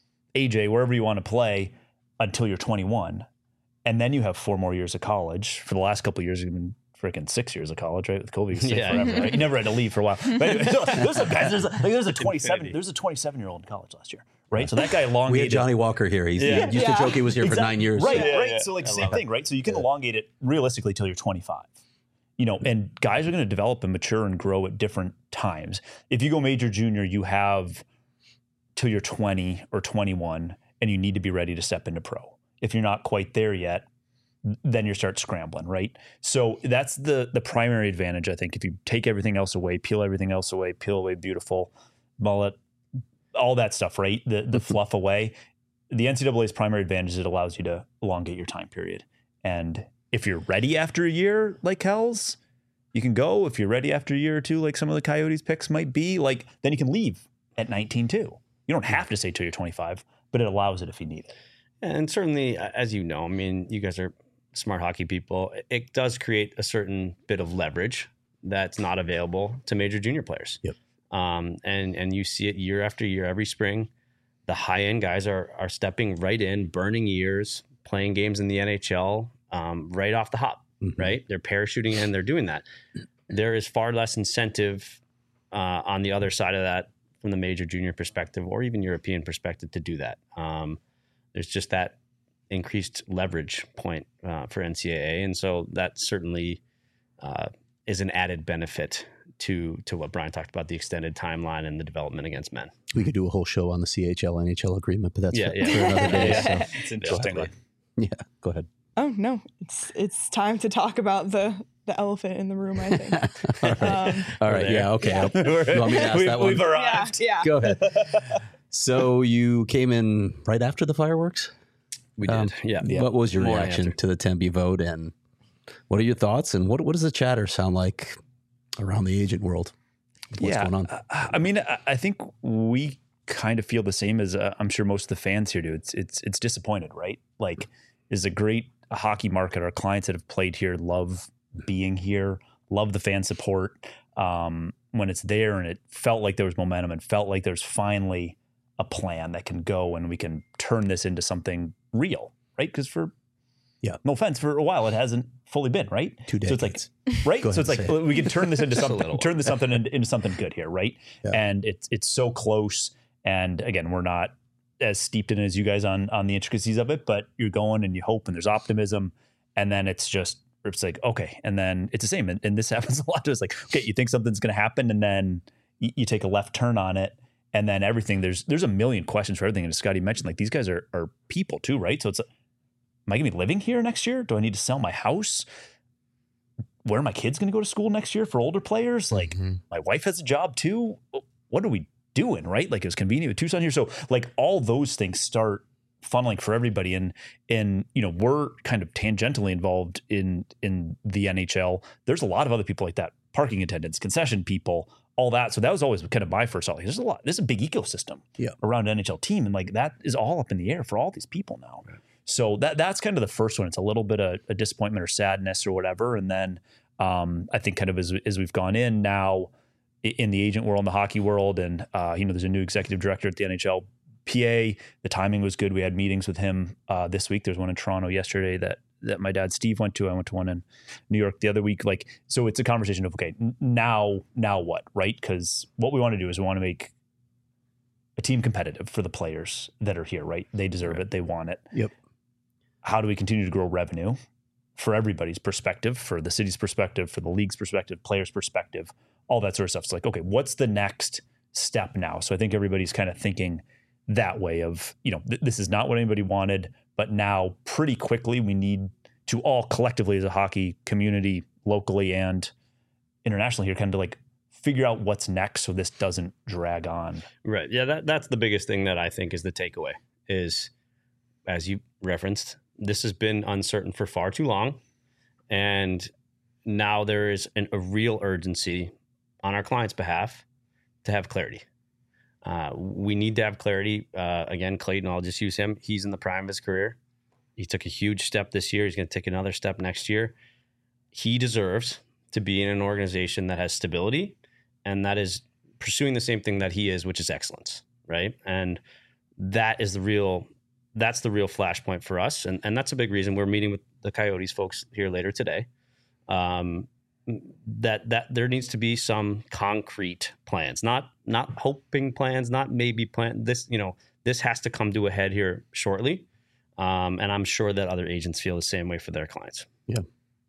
A J, wherever you want to play until you're twenty-one. And then you have four more years of college. For the last couple of years, you've been freaking six years of college, right? With Kobe, you stayed yeah. forever, right? You never had to leave for a while. But anyway, so there's a guys, there's a, like, there's a twenty-seven, there's a twenty-seven year old in college last year, right? So that guy elongated. We had Johnny Walker here. He's, Yeah. He used Yeah. to joke he was here Exactly. for nine years. Right, Yeah, right. yeah. So like I same love thing, right? So you can Yeah. elongate it realistically till you're twenty-five. You know, and guys are going to develop and mature and grow at different times. If you go major junior, you have till you're twenty or twenty-one, and you need to be ready to step into pro. If you're not quite there yet, then you start scrambling, right? So that's the the primary advantage, I think. If you take everything else away, peel everything else away, peel away beautiful, mullet, all that stuff, right? The the fluff away. The N C double A's primary advantage is it allows you to elongate your time period. And if you're ready after a year, like Kells, you can go. If you're ready after a year or two, like some of the Coyotes picks might be, like then you can leave at nineteen too. You don't have to stay till you're twenty-five, but it allows it if you need it. And certainly, as you know, I mean, you guys are smart hockey people. It does create a certain bit of leverage that's not available to major junior players. Yep. Um, and and you see it year after year, every spring. The high end guys are are stepping right in, burning years, playing games in the N H L um, right off the hop. Mm-hmm. Right, they're parachuting in, they're doing that. There is far less incentive uh, on the other side of that from the major junior perspective, or even European perspective, to do that. Um, there's just that increased leverage point uh, for N C A A, and so that certainly uh, is an added benefit to to what Brian talked about, the extended timeline and the development against men. We could do a whole show on the C H L N H L agreement, but that's Yeah, for, yeah. for another day. Yeah. So. It's interesting. Yeah, go ahead. Oh no, it's it's time to talk about the the elephant in the room, I think. All right. Um, All right. there. Yeah. Okay. Yeah. You want me to ask we've, that one? We've yeah, arrived. yeah. Go ahead. So you came in right after the fireworks? We did, Um, yeah. What was your Morning reaction after. to the Tempe vote, and what are your thoughts, and what what does the chatter sound like around the agent world? What's yeah, going on? I, I mean, I, I think we kind of feel the same as uh, I'm sure most of the fans here do. It's it's it's disappointed, right? Like, is a great hockey market. Our clients that have played here love being here, love the fan support. Um, when it's there, and it felt like there was momentum, and felt like there's finally a plan that can go, and we can turn this into something real, right? Because for Yeah. no offense, for a while it hasn't fully been, right? Two So it's like, decades. right? Go So it's ahead like and say we can turn this into Just a something, little turn this something into, into something good here, right? Yeah. And it's it's so close. And again, we're not as steeped in it as you guys on on the intricacies of it, but you're going and you hope and there's optimism, and then it's just it's like okay, and then it's the same. And, and this happens a lot. It's like okay, you think something's going to happen, and then you, you take a left turn on it. And then everything, there's there's a million questions for everything. And as Scotty mentioned, like these guys are are people too, right? So it's, am I going to be living here next year? Do I need to sell my house? Where are my kids going to go to school next year for older players? Like Mm-hmm. my wife has a job too. What are we doing, right? Like it was convenient with Tucson here. So like all those things start funneling for everybody. And, and, you know, we're kind of tangentially involved in, in the N H L. There's a lot of other people like that, parking attendants, concession people, all that. So that was always kind of my first thought. Like, there's a lot, there's a big ecosystem Yeah. around an N H L team. And like, that is all up in the air for all these people now. Right. So that, that's kind of the first one. It's a little bit of a disappointment or sadness or whatever. And then um, I think kind of as, as we've gone in now in the agent world, in the hockey world, and uh, you know, there's a new executive director at the N H L P A. The timing was good. We had meetings with him uh, this week. There's one in Toronto yesterday that that my dad Steve went to. I went to one in New York the other week. Like, so it's a conversation of okay, now now what, right? Because what we want to do is we want to make a team competitive for the players that are here, right? They deserve right. it. They want it. Yep. How do we continue to grow revenue for everybody's perspective, for the city's perspective, for the league's perspective, players' perspective, all that sort of stuff. It's like, okay, what's the next step now? So I think everybody's kind of thinking that way of, you know, th- this is not what anybody wanted, but now pretty quickly we need to all collectively as a hockey community, locally and internationally here, kind of like figure out what's next so this doesn't drag on. Right. Yeah, that, that's the biggest thing that I think is the takeaway is, as you referenced, this has been uncertain for far too long. And now there is an, a real urgency on our client's behalf to have clarity. Uh, we need to have clarity. Uh, again, Clayton, I'll just use him. He's in the prime of his career. He took a huge step this year. He's going to take another step next year. He deserves to be in an organization that has stability and that is pursuing the same thing that he is, which is excellence, right? And that is the real, that's the real flashpoint for us. And, and that's a big reason we're meeting with the Coyotes folks here later today. Um, that that there needs to be some concrete plans, not not hoping plans, not maybe plan. This, you know, this has to come to a head here shortly. Um, and I'm sure that other agents feel the same way for their clients. Yeah.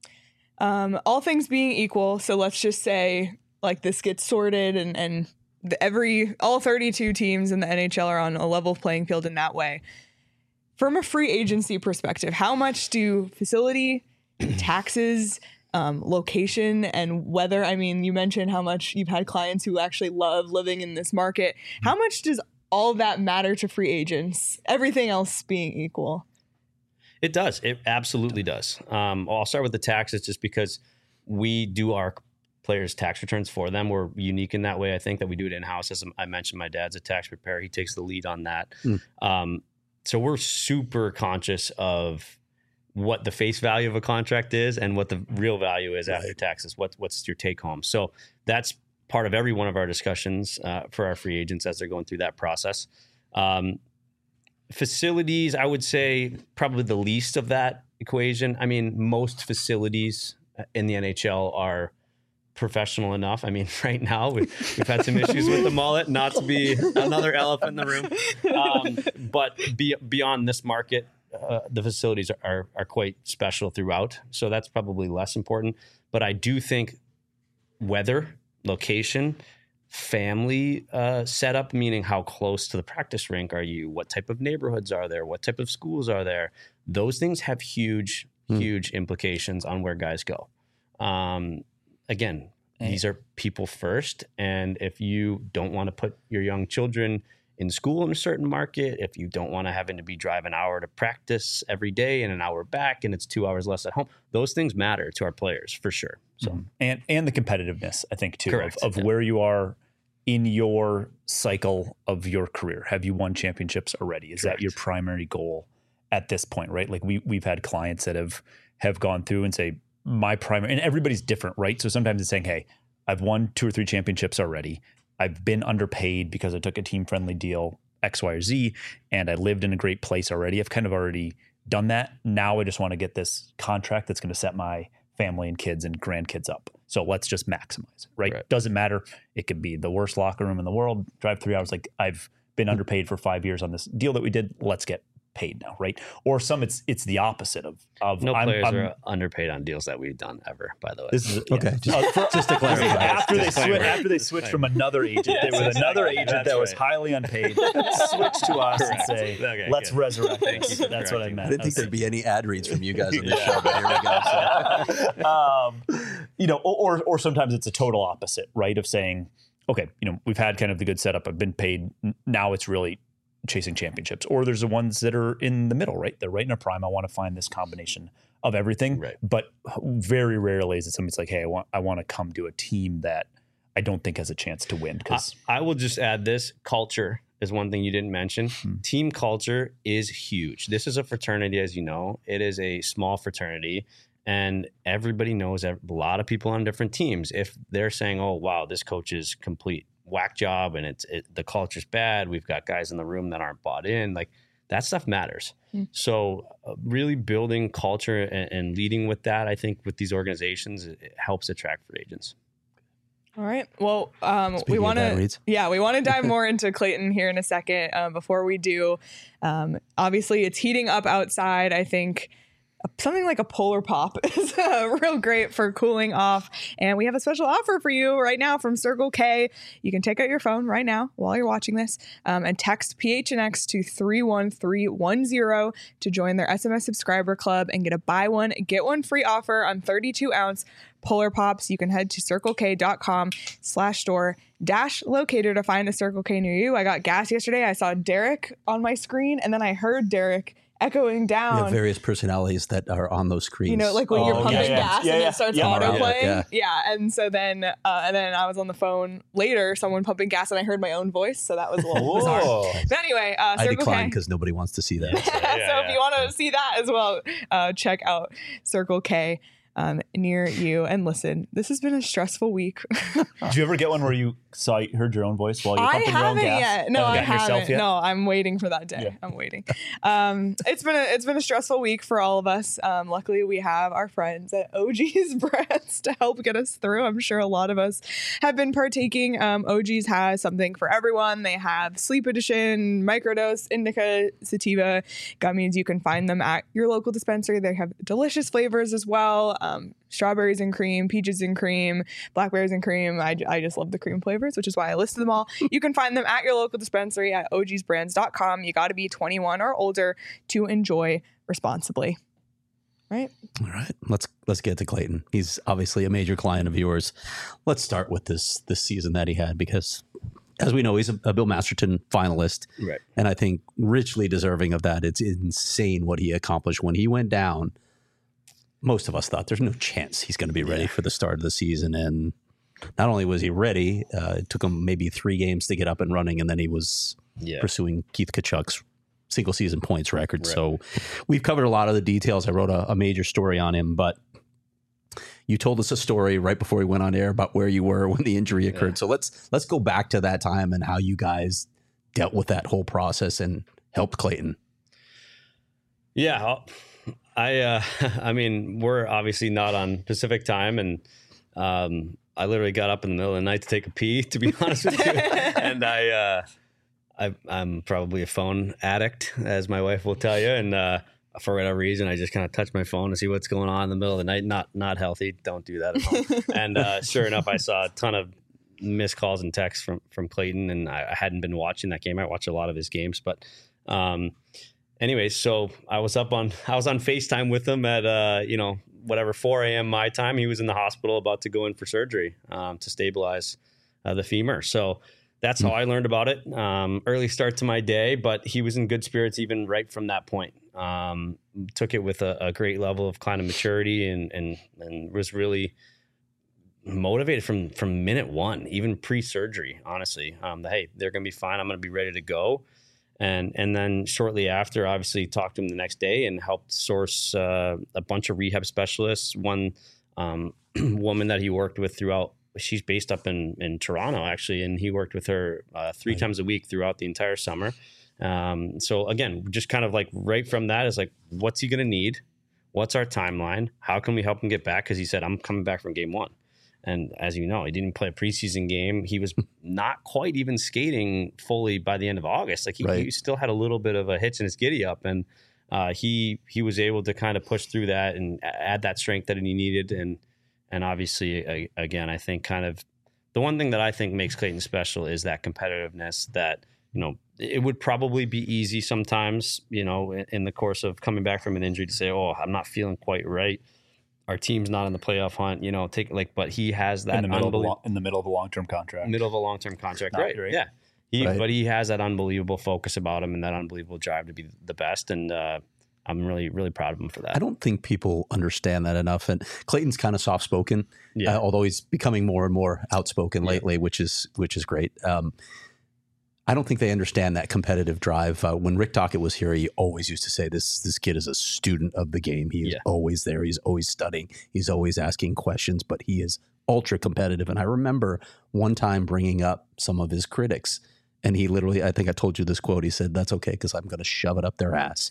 Um, all things being equal, so let's just say like this gets sorted and and the, every all thirty-two teams in the N H L are on a level playing field in that way. From a free agency perspective, how much do facility, taxes, um, location, and weather? I mean, you mentioned how much you've had clients who actually love living in this market. How much does all of that matter to free agents? Everything else being equal. It does. It absolutely does. Um, I'll start with the taxes just because we do our players' tax returns for them. We're unique in that way. I think that we do it in-house. As I mentioned, my dad's a tax preparer. He takes the lead on that. Mm. Um, so we're super conscious of what the face value of a contract is and what the real value is right. after taxes. What, what's your take home? So that's part of every one of our discussions uh, for our free agents as they're going through that process. Um, facilities, I would say probably the least of that equation. I mean, most facilities in the N H L are professional enough. I mean, right now we've, we've had some issues with the mullet, not to be another elephant in the room. Um, but be, beyond this market, uh, the facilities are, are are quite special throughout. So that's probably less important. But I do think weather, location, family uh, setup, meaning how close to the practice rink are you? What type of neighborhoods are there? What type of schools are there? Those things have huge, hmm. huge implications on where guys go. Um, again, hey. These are people first. And if you don't want to put your young children in school in a certain market, if you don't want to having to be drive an hour to practice every day and an hour back and it's two hours less at home, those things matter to our players for sure. So mm-hmm. and and the competitiveness, I think, too, Correct. of, of yeah. where you are in your cycle of your career. Have you won championships already? Is Correct. That your primary goal at this point, right? Like we we've had clients that have have gone through and say, my primary, and everybody's different, right? So sometimes it's saying, hey, I've won two or three championships already. I've been underpaid because I took a team-friendly deal, X, Y, or Z, and I lived in a great place already. I've kind of already done that. Now I just want to get this contract that's going to set my family and kids and grandkids up. So let's just maximize it, right? right? Doesn't matter. It could be the worst locker room in the world. Drive three hours. Like I've been underpaid for five years on this deal that we did. Let's get paid now, right? Or some it's it's the opposite of of no I'm, players I'm, are underpaid on deals that we've done ever. By the way, this is okay. Yeah. Just, uh, for, just to clarify, after they switch after they switched from another agent, yes, there was another exactly. agent That's that was right. highly unpaid. Switch to us Correct. and say, okay, let's good. resurrect. Thank you for That's what I correcting. meant. I didn't think Okay. there'd be any ad reads from you guys on this show, but here we go. So. um, you know, or or sometimes it's a total opposite, right? Of saying, okay, you know, we've had kind of the good setup. I've been paid. Now it's really chasing championships. Or there's the ones that are in the middle, right? They're right in a prime. I want to find this combination of everything. Right. But very rarely is it somebody's like, hey, I want I want to come to a team that I don't think has a chance to win. Because I, I will just add this: culture is one thing you didn't mention. Hmm. Team culture is huge. This is a fraternity, as you know. It is a small fraternity. And everybody knows a lot of people on different teams. If they're saying, oh, wow, this coach is complete whack job and it's it, the culture's bad, we've got guys in the room that aren't bought in, like that stuff matters. Mm. So uh, really building culture and, and leading with that, I think with these organizations, it, it helps attract free agents. All right. Well, um, Speaking we of want bad to, reads. yeah, we want to dive more into Clayton here in a second. Um, before we do, um, obviously it's heating up outside. I think something like a Polar Pop is uh, real great for cooling off. And we have a special offer for you right now from Circle K. You can take out your phone right now while you're watching this um, and text P H N X to three one three one zero to join their S M S subscriber club and get a buy one, get one free offer on thirty-two ounce Polar Pops. You can head to circlek.com slash store dash locator to find a Circle K near you. I got gas yesterday. I saw Derek on my screen and then I heard Derek echoing We down. have various personalities that are on those screens. You know, like when Oh, you're yeah, pumping yeah. gas Yeah, and yeah. it starts Yeah. auto playing. Yeah, Yeah, yeah. and so then, uh, and then I was on the phone later, someone pumping gas, and I heard my own voice, so that was a little bizarre. Whoa. But anyway, uh, I Circle decline K. because nobody wants to see that. so yeah, if you want to see that as well, uh, check out Circle K um, near you. And listen, this has been a stressful week. Did you ever get one where you saw heard your own voice while you're I pumping your own haven't gas? yet. No, Haven't I gotten yourself haven't. yet? No, I'm waiting for that day. Yeah. I'm waiting. Um, it's been a it's been a stressful week for all of us. Um, luckily, we have our friends at O G's Brands to help get us through. I'm sure a lot of us have been partaking. Um, O G's has something for everyone. They have Sleep Edition, Microdose, Indica, Sativa gummies. You can find them at your local dispensary. They have delicious flavors as well. Um, strawberries and cream, peaches and cream, blackberries and cream. I, I just love the cream flavors, which is why I listed them all. You can find them at your local dispensary at O Gs brands dot com. You got to be twenty-one or older to enjoy responsibly. Right? All right, let's let's get to Clayton. He's obviously a major client of yours. Let's start with this this season that he had because, as we know, he's a, a Bill Masterton finalist, Right. and I think richly deserving of that. It's insane what he accomplished when he went down. Most of us thought there's no chance he's going to be ready for the start of the season, and not only was he ready, uh, it took him maybe three games to get up and running, and then he was Yeah. pursuing Keith Kachuk's single season points record. Right. So we've covered a lot of the details. I wrote a, a major story on him, but you told us a story right before we went on air about where you were when the injury occurred. Yeah. So let's let's go back to that time and how you guys dealt with that whole process and helped Clayton. Yeah, I'll- I uh, I mean, we're obviously not on Pacific time, and um, I literally got up in the middle of the night to take a pee, to be honest with you. And I, uh, I, I'm probably a phone addict, as my wife will tell you. And uh, for whatever reason, I just kind of touch my phone to see what's going on in the middle of the night. Not not healthy. Don't do that at home. And uh, sure enough, I saw a ton of missed calls and texts from from Clayton, and I, I hadn't been watching that game. I watched a lot of his games, but. Um, Anyways, so I was up on I was on FaceTime with him at uh, you know, whatever four a.m. my time. He was in the hospital about to go in for surgery um, to stabilize uh, the femur. So that's how I learned about it. Um, early start to my day, but he was in good spirits even right from that point. Um, took it with a, a great level of kind of maturity and and and was really motivated from from minute one, even pre-surgery. Honestly, um, that, hey, they're gonna be fine. I'm gonna be ready to go. And and then shortly after, obviously, talked to him the next day and helped source uh, a bunch of rehab specialists. One um, woman that he worked with throughout, she's based up in, in Toronto, actually, and he worked with her uh, three Right. times a week throughout the entire summer. Um, so again, just kind of like right from that is like, what's he going to need? What's our timeline? How can we help him get back? Because he said, I'm coming back from game one. And as you know, he didn't play a preseason game. He was not quite even skating fully by the end of August. Like he, Right. he still had a little bit of a hitch in his giddy up, and uh, he he was able to kind of push through that and add that strength that he needed. And and obviously, a, again, I think kind of the one thing that I think makes Clayton special is that competitiveness. That you know, it would probably be easy sometimes, you know, in, in the course of coming back from an injury to say, "Oh, I'm not feeling quite right." Our team's not in the playoff hunt, you know, take like, but he has that in the middle of a unbelie- long, in the middle of a long term contract. middle of a long-term contract. Not Right. great. Yeah. He, Right. but he has that unbelievable focus about him and that unbelievable drive to be the best. And uh, I'm really, really proud of him for that. I don't think people understand that enough. And Clayton's kind of soft spoken, Yeah. uh, although he's becoming more and more outspoken Yeah. lately, which is which is great. Um, I don't think they understand that competitive drive. Uh, when Rick Tocchet was here, he always used to say, "This this kid is a student of the game. He is Yeah. always there. He's always studying. He's always asking questions, but he is ultra competitive." And I remember one time bringing up some of his critics, And he literally, I think I told you this quote. He said, "That's okay because I'm going to shove it up their ass."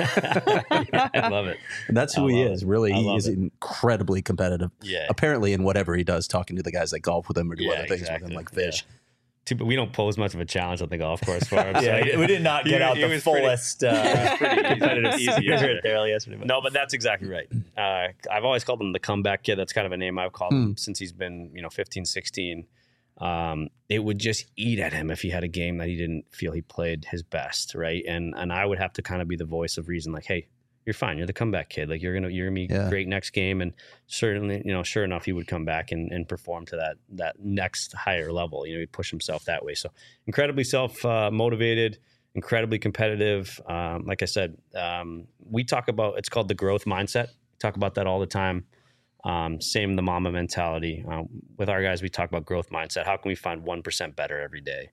I love it. And that's who I he love is. it. Really, I he love is it. incredibly competitive. Yeah. Apparently, in whatever he does, talking to the guys that golf with him or do Yeah, other things exactly. with him, like fish. Yeah. Too, but we don't pose much of a challenge on the golf course for him. So Yeah, we did not get He- out he the was pretty- fullest uh, pretty competitive, easy spirit yesterday. there yesterday. But No, but that's exactly right. Uh, I've always called him the comeback kid. That's kind of a name I've called Hmm. him since he's been, you know, fifteen, sixteen. Um, it would just eat at him if he had a game that he didn't feel he played his best, right? And and I would have to kind of be the voice of reason, like, hey, you're fine. You're the comeback kid. Like you're gonna you're gonna be Yeah. great next game. And certainly, you know, sure enough, he would come back and, and perform to that that next higher level. You know, he'd push himself that way. So incredibly self uh, motivated, incredibly competitive. Um, like I said, um, we talk about it's called the growth mindset. We talk about that all the time. Um, same the mama mentality. Um, with our guys, we talk about growth mindset. How can we find one percent better every day?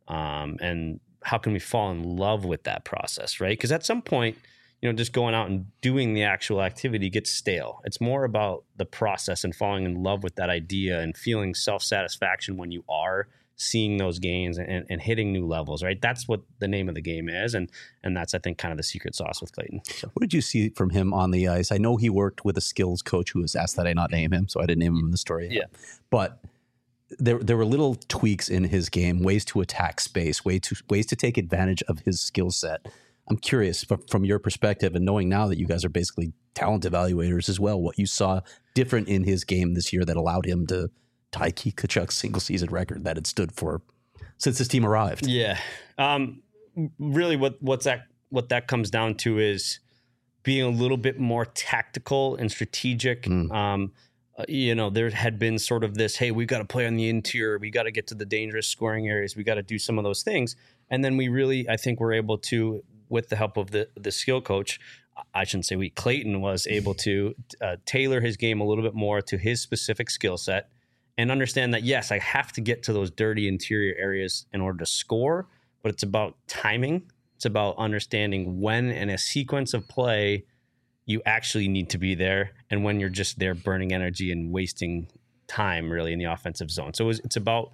Um, and how can we fall in love with that process, right? Because at some point, you know, just going out and doing the actual activity gets stale. It's more about the process and falling in love with that idea and feeling self-satisfaction when you are seeing those gains and, and hitting new levels, right? That's what the name of the game is. And and that's, I think, kind of the secret sauce with Clayton. So. What did you see from him on the ice? I know he worked with a skills coach who was asked that I not name him, so I didn't name him in the story. Yeah. But there there were little tweaks in his game, ways to attack space, way to, ways to take advantage of his skill set. I'm curious from, from your perspective and knowing now that you guys are basically talent evaluators as well, what you saw different in his game this year that allowed him to tie Keith Tkachuk's single season record that had stood for since his team arrived. Yeah. Um, really what, what's that, what that comes down to is being a little bit more tactical and strategic. Mm. Um, uh, you know, there had been sort of this, hey, we've got to play on the interior. We got to get to the dangerous scoring areas. We got to do some of those things. And then we really, I think we're able to, with the help of the, the skill coach, I shouldn't say we, Clayton was able to uh, tailor his game a little bit more to his specific skill set and understand that, yes, I have to get to those dirty interior areas in order to score, but it's about timing. It's about understanding when in a sequence of play you actually need to be there and when you're just there burning energy and wasting time really in the offensive zone. So it's, it's about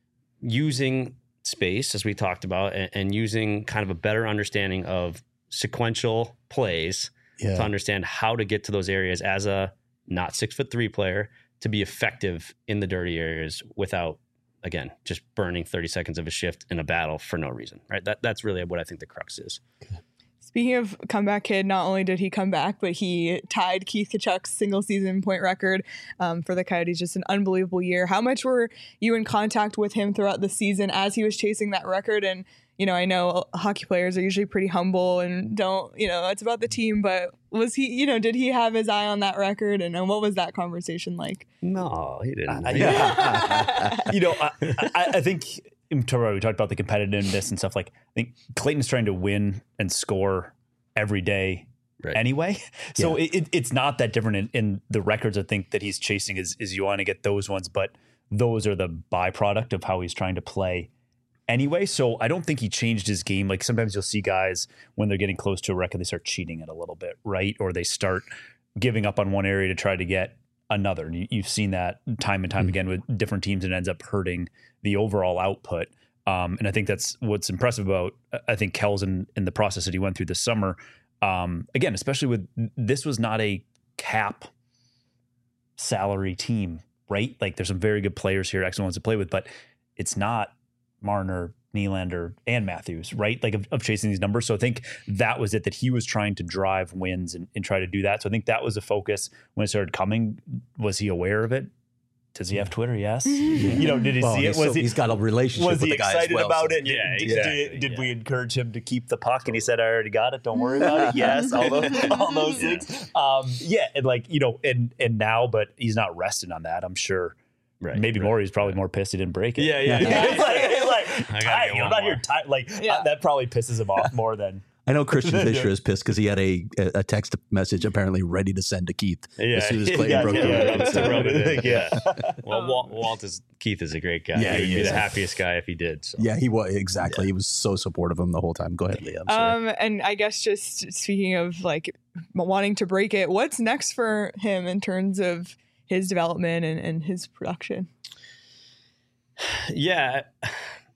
using space, as we talked about, and, and using kind of a better understanding of sequential plays Yeah. to understand how to get to those areas as a not six foot three player to be effective in the dirty areas without, again, just burning thirty seconds of a shift in a battle for no reason, right? That That's really what I think the crux is. Speaking of comeback kid, not only did he come back, but he tied Keith Tkachuk's single season point record um, for the Coyotes. Just an unbelievable year. How much were you in contact with him throughout the season as he was chasing that record? And, you know, I know hockey players are usually pretty humble and don't, you know, it's about the team, but was he, you know, did he have his eye on that record? And, and what was that conversation like? No, he didn't. I- yeah. you know, I, I, I think we talked about the competitiveness and stuff. Like, I think Clayton's trying to win and score every day Right. anyway. So Yeah. it, it, it's not that different in, in the records. I think that he's chasing is, is you want to get those ones, but those are the byproduct of how he's trying to play anyway. So I don't think he changed his game. Like sometimes you'll see guys when they're getting close to a record, they start cheating it a little bit, right? Or they start giving up on one area to try to get another. And you, you've seen that time and time Mm-hmm. again with different teams, and it ends up hurting the overall output. Um, and I think that's what's impressive about, I think, Kells in, in the process that he went through this summer. Um, again, especially with, this was not a cap salary team, right? Like there's some very good players here, excellent ones to play with, but it's not Marner, Nylander, and Matthews, right? Like of, of chasing these numbers. So I think that was it, that he was trying to drive wins and, and try to do that. So I think that was a focus when it started coming. Was he aware of it? Does he have Twitter? Yes. You know, did he Well, see it? he's Was so- he, he's got a relationship was with he the guy as excited well, about so- it? Yeah, Did, exactly, did, did yeah. we encourage him to keep the puck? And he said, I already got it. Don't worry about it. Yes. All those, all those things. Um, yeah. And like, you know, and, and now, but he's not resting on that. I'm sure. Right, Maybe right, more. He's probably more pissed he didn't break it. Yeah, yeah. it's like, it's like I gotta "Ty, get I'm one not more." here. Ty-" Like Yeah. uh, that probably pisses him off more than. I know Christian Fisher is pissed because he had a a text message apparently ready to send to Keith Yeah, as soon as yeah, Clayton yeah, broke yeah, the yeah, record. Rubs- So- rub it in. Yeah. Well, Walt, Walt is Keith is a great guy. Yeah, He'd he be is. the happiest guy if he did. So. Yeah, he was exactly. He was so supportive of him the whole time. Go ahead, Leah. I'm sorry. Um, and I guess just speaking of like wanting to break it, what's next for him in terms of his development and, and his production? Yeah,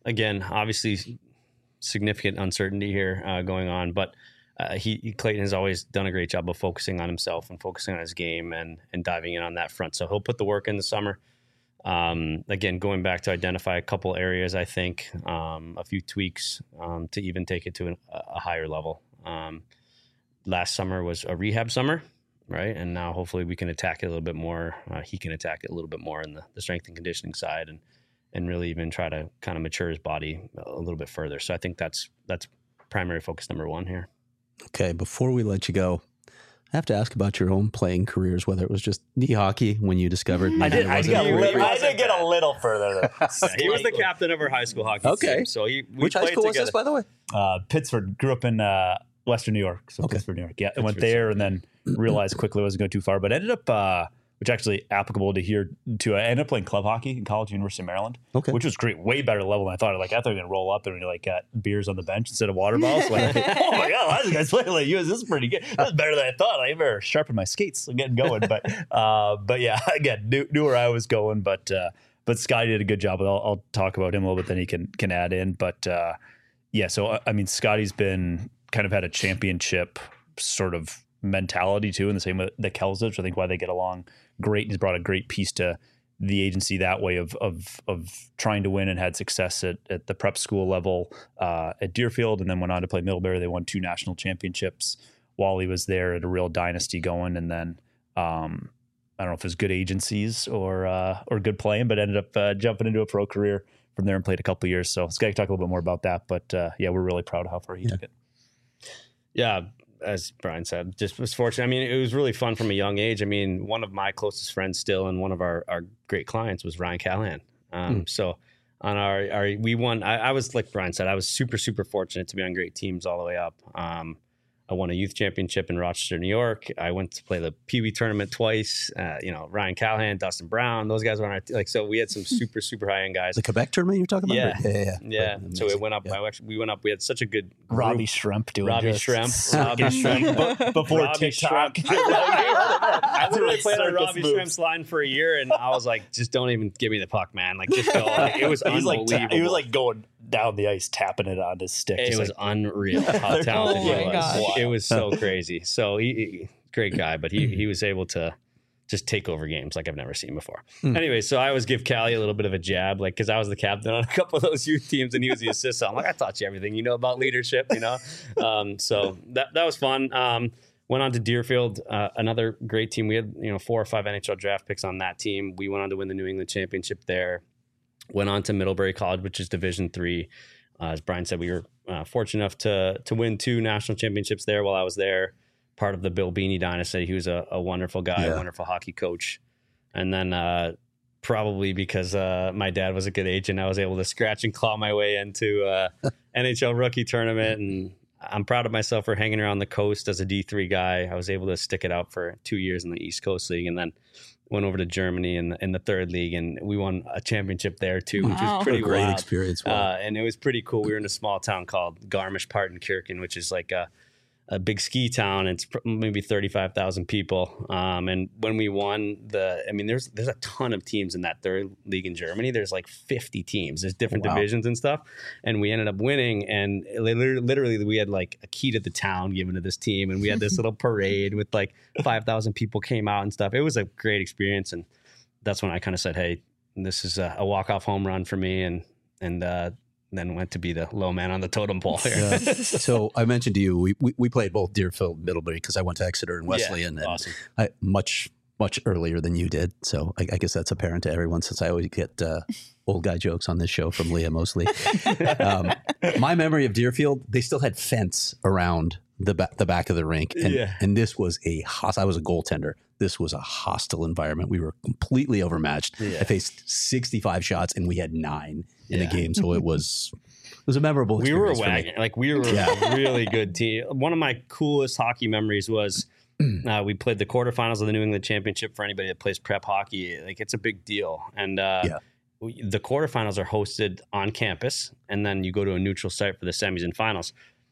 again, obviously significant uncertainty here uh, going on, but uh, he Clayton has always done a great job of focusing on himself and focusing on his game and and diving in on that front. So he'll put the work in the summer. Um, again, going back to identify a couple areas, I think um, a few tweaks um, to even take it to an, a higher level. Um, last summer was a rehab summer, right? And now hopefully we can attack it a little bit more. Uh, he can attack it a little bit more in the, the strength and conditioning side, and and really even try to kind of mature his body a little bit further. So I think that's that's primary focus number one here. Okay, before we let you go, I have to ask about your own playing careers, whether it was just knee hockey when you discovered. I did. I, got a little, I did get a little further. Yeah, he was the captain of our high school hockey okay. team. So he, we Which high school together. was this, by the way? Uh, Pittsford. Grew up in uh, Western New York. So okay. Pittsburgh, New York. Yeah, I went there and then realized quickly I wasn't going too far, but ended up, uh, which actually applicable to here too. I ended up playing club hockey in college, University of Maryland, okay. which was great, way better level than I thought. Like I thought we were gonna roll up and we like got beers on the bench instead of water bottles. Like, oh my god, why this guy's playing like you? This is pretty good. That's better than I thought. I better sharpen my skates and getting going. But uh, but yeah, again, knew, knew where I was going. But uh, but Scotty did a good job. I'll, I'll talk about him a little bit, then he can can add in. But uh, yeah, so I mean, Scotty's been kind of had a championship sort of mentality too, in the same way that Kells does. I think why they get along great. He's brought a great piece to the agency that way of of of trying to win, and had success at, at the prep school level uh, at Deerfield, and then went on to play Middlebury. They won two national championships while he was there, at a real dynasty going. And then um, I don't know if it was good agencies or uh, or good playing, but ended up uh, jumping into a pro career from there and played a couple of years. So Scott can talk a little bit more about that. But uh, yeah, we're really proud of how far he yeah. took it. Yeah. As Brian said, just was fortunate. I mean, it was really fun from a young age. I mean, one of my closest friends still, and one of our, our great clients was Ryan Callahan. Um, mm. So on our, our we won. I, I was, like Brian said, I was super, super fortunate to be on great teams all the way up. Um, I won a youth championship in Rochester, New York. I went to play the Pee Wee tournament twice. Uh, you know, Ryan Callahan, Dustin Brown, those guys were on our, like, so we had some super, super high end guys. The Quebec tournament you're talking about? Yeah. Yeah. Yeah. yeah. Right. So it went up. Yeah. I actually, we went up. We had such a good group. Robbie Shrimp doing Robbie just Shrimp. Robbie Shrimp. Before Robbie TikTok. Shrimp. I literally played on Circus Robbie moves. Shrimp's line for a year, and I was like, just don't even give me the puck, man. Like, just go. Like, it was He's like unbelievable. ta- he was like going down the ice, tapping it on his stick. It just was like, unreal how talented Oh he my was. gosh. It was so crazy. So he, he great guy, but he he was able to just take over games like I've never seen before. Mm. Anyway, so I always give Callie a little bit of a jab, like, because I was the captain on a couple of those youth teams and he was the assistant. So I'm like, I taught you everything you know about leadership, you know? Um, so that that was fun. Um, went on to Deerfield, uh, another great team. We had, you know, four or five N H L draft picks on that team. We went on to win the New England Championship there. Went on to Middlebury College, which is Division three. Uh, as Brian said, we were uh, fortunate enough to to win two national championships there while I was there. Part of the Bill Beanie dynasty. He was a, a wonderful guy, Yeah. a wonderful hockey coach. And then uh, probably because uh, my dad was a good agent, I was able to scratch and claw my way into uh, N H L rookie tournament. And I'm proud of myself for hanging around the coast as a D three guy. I was able to stick it out for two years in the East Coast League, and then went over to Germany in the, in the third league, and we won a championship there too, which Wow. was pretty What a great wild. experience. Wow. Uh, and it was pretty cool. We were in a small town called Garmisch-Partenkirchen, which is like a, a big ski town. It's pr- maybe thirty-five thousand people. Um, and when we won the, I mean, there's there's a ton of teams in that third league in Germany. There's like fifty teams. There's different Wow. divisions and stuff. And we ended up winning. And literally, literally, we had like a key to the town given to this team. And we had this little parade with like five thousand people came out and stuff. It was a great experience. And that's when I kind of said, hey, this is a, a walk-off home run for me. And, and, uh, then went to be the low man on the totem pole here. Yeah. So I mentioned to you, we, we, we played both Deerfield and Middlebury because I went to Exeter and Wesleyan, and awesome. I, much, much earlier than you did. So I, I guess that's apparent to everyone, since I always get uh, old guy jokes on this show from Leah mostly. um, my memory of Deerfield, they still had fence around the, ba- the back of the rink. And, Yeah. and this was a hostile, I was a goaltender. This was a hostile environment. We were completely overmatched. Yeah. I faced sixty-five shots and we had nine in Yeah. a game. So it was, it was a memorable We were a experience for me. wagon. Like, we were Yeah. a really good team. One of my coolest hockey memories was uh, we played the quarterfinals of the New England Championship. For anybody that plays prep hockey, like, it's a big deal. And uh, Yeah. we, the quarterfinals are hosted on campus, and then you go to a neutral site for the semis and finals.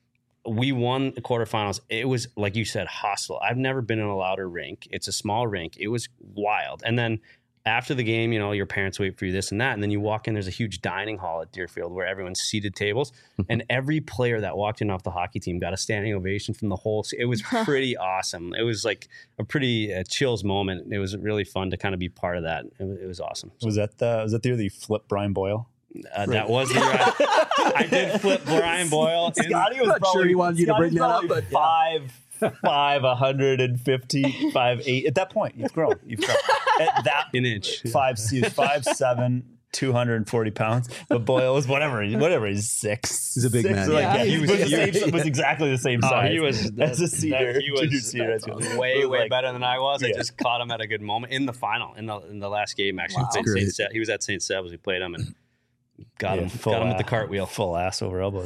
We won the quarterfinals. It was, like you said, hostile. I've never been in a louder rink. It's a small rink. It was wild. And then after the game, you know, your parents wait for you, this and that. And then you walk in, there's a huge dining hall at Deerfield where everyone's seated tables. And every player that walked in off the hockey team got a standing ovation from the whole. It was pretty awesome. It was like a pretty uh, chills moment. It was really fun to kind of be part of that. It was, it was awesome. So, Was that the, was that the year that you flipped Brian Boyle? uh, that was the year I, I did flip Brian Boyle. in- Scotty was I'm not probably, sure he wanted you to Scotty's bring that up, probably but yeah. five, five, one hundred fifty, five, eight. At that point, you've grown. You've grown. At that An inch. five, he was five, seven, two hundred forty pounds. But Boyle was whatever, whatever. He's six. He's a big six, man. Like, Yeah. yeah, he was, He was, was- the same, was exactly the same Oh, size. he was as a that- senior. He junior was senior. That's good. way, It was way like- better than I was. I Yeah. just caught him at a good moment in the final, in the in the last game. Actually, Wow. Saint Great. Se- he was at Saint Seb's. We played him and got Yeah, him, full got him with a- the cartwheel. Full ass over elbows.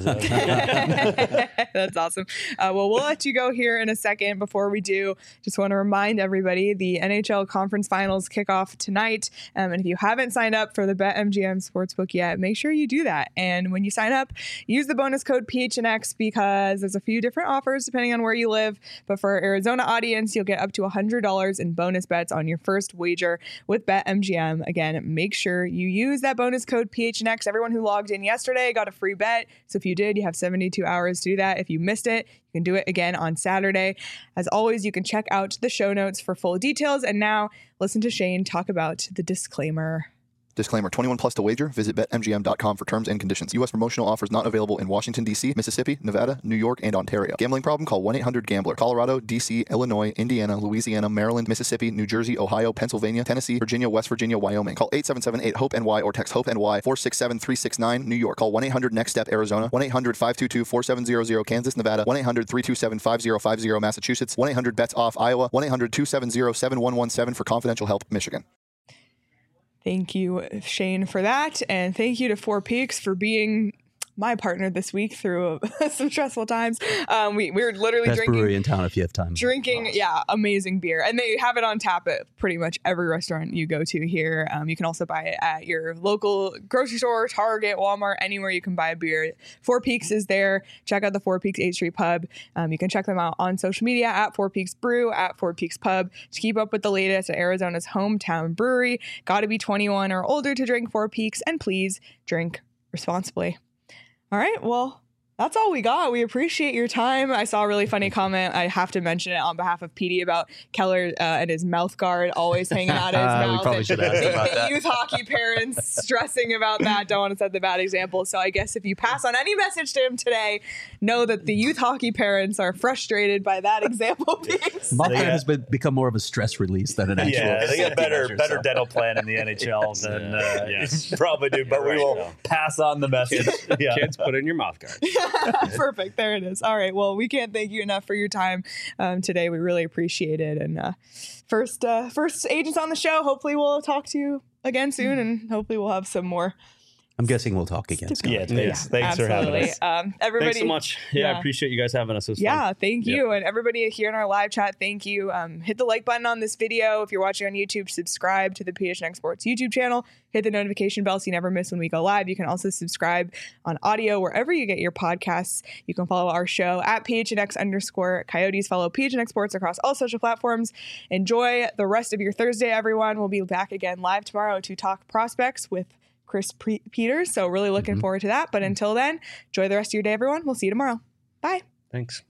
That's awesome. Uh, well, we'll let you go here in a second. Before we do, just want to remind everybody the N H L Conference Finals kick off tonight. Um, and if you haven't signed up for the BetMGM Sportsbook yet, make sure you do that. And when you sign up, use the bonus code P H N X because there's a few different offers depending on where you live. But for our Arizona audience, you'll get up to one hundred dollars in bonus bets on your first wager with BetMGM. Again, make sure you use that bonus code P H N X. Everyone who logged in yesterday got a free bet. So if you did, you have seventy-two hours to do that. If you missed it, you can do it again on Saturday. As always, you can check out the show notes for full details. And now listen to Shane talk about the disclaimer. Disclaimer, twenty-one plus to wager. Visit bet M G M dot com for terms and conditions. U S promotional offers not available in Washington, D C, Mississippi, Nevada, New York, and Ontario. Gambling problem? Call one eight hundred gambler. Colorado, D C, Illinois, Indiana, Louisiana, Maryland, Mississippi, New Jersey, Ohio, Pennsylvania, Tennessee, Virginia, West Virginia, Wyoming. Call eight seven seven eight HOPE N Y or text HOPE N Y four six seven three six nine. New York. Call one eight hundred next step Arizona. one eight hundred five two two four seven zero zero Kansas, Nevada. one eight hundred three two seven five zero five zero Massachusetts. one eight hundred bets off Iowa. one eight hundred two seven zero seven one one seven for confidential help, Michigan. Thank you, Shane, for that. And thank you to Four Peaks for being my partner this week through some stressful times. Um, we, we were literally Best drinking. brewery in town if you have time. Drinking, yeah, amazing beer. And they have it on tap at pretty much every restaurant you go to here. Um, you can also buy it at your local grocery store, Target, Walmart, anywhere you can buy a beer. Four Peaks is there. Check out the Four Peaks eighth Street Pub. Um, you can check them out on social media at Four Peaks Brew, at Four Peaks Pub to keep up with the latest at Arizona's hometown brewery. Got to be twenty-one or older to drink Four Peaks, and please drink responsibly. All right, well, that's all we got. We appreciate your time. I saw a really funny comment. I have to mention it on behalf of P D about Keller uh, and his mouth guard always hanging out of his We mouth. probably and should ask the, about the that. youth hockey parents stressing about that. Don't want to set the bad example. So I guess if you pass on any message to him today, know that the youth hockey parents are frustrated by that example being said. Mouth They guard got- has been, become more of a stress release than an actual. Yeah, they got better measure, better so. dental plan in the N H L than uh, Yes. you probably do, but we Right, will yeah. pass on the message. Yeah. Kids, put in your mouth guard. Perfect. There it is. All right. Well, we can't thank you enough for your time um, today. We really appreciate it. And uh, first, uh, first agents on the show. Hopefully, we'll talk to you again soon, and hopefully, we'll have some more. I'm guessing we'll talk again. Scott. Yeah, thanks. Thanks for Absolutely. having us. Um, everybody, Thanks so much. Yeah, yeah. I appreciate you guys having us. It was Yeah, fun. thank you. And everybody here in our live chat, thank you. Um, hit the like button on this video. If you're watching on YouTube, subscribe to the P H N X Sports YouTube channel. Hit the notification bell so you never miss when we go live. You can also subscribe on audio wherever you get your podcasts. You can follow our show at P H N X underscore Coyotes. Follow P H N X Sports across all social platforms. Enjoy the rest of your Thursday, everyone. We'll be back again live tomorrow to talk prospects with Chris Pre- Peters. So really looking Mhm. forward to that. But until then, enjoy the rest of your day, everyone. We'll see you tomorrow. Bye. Thanks.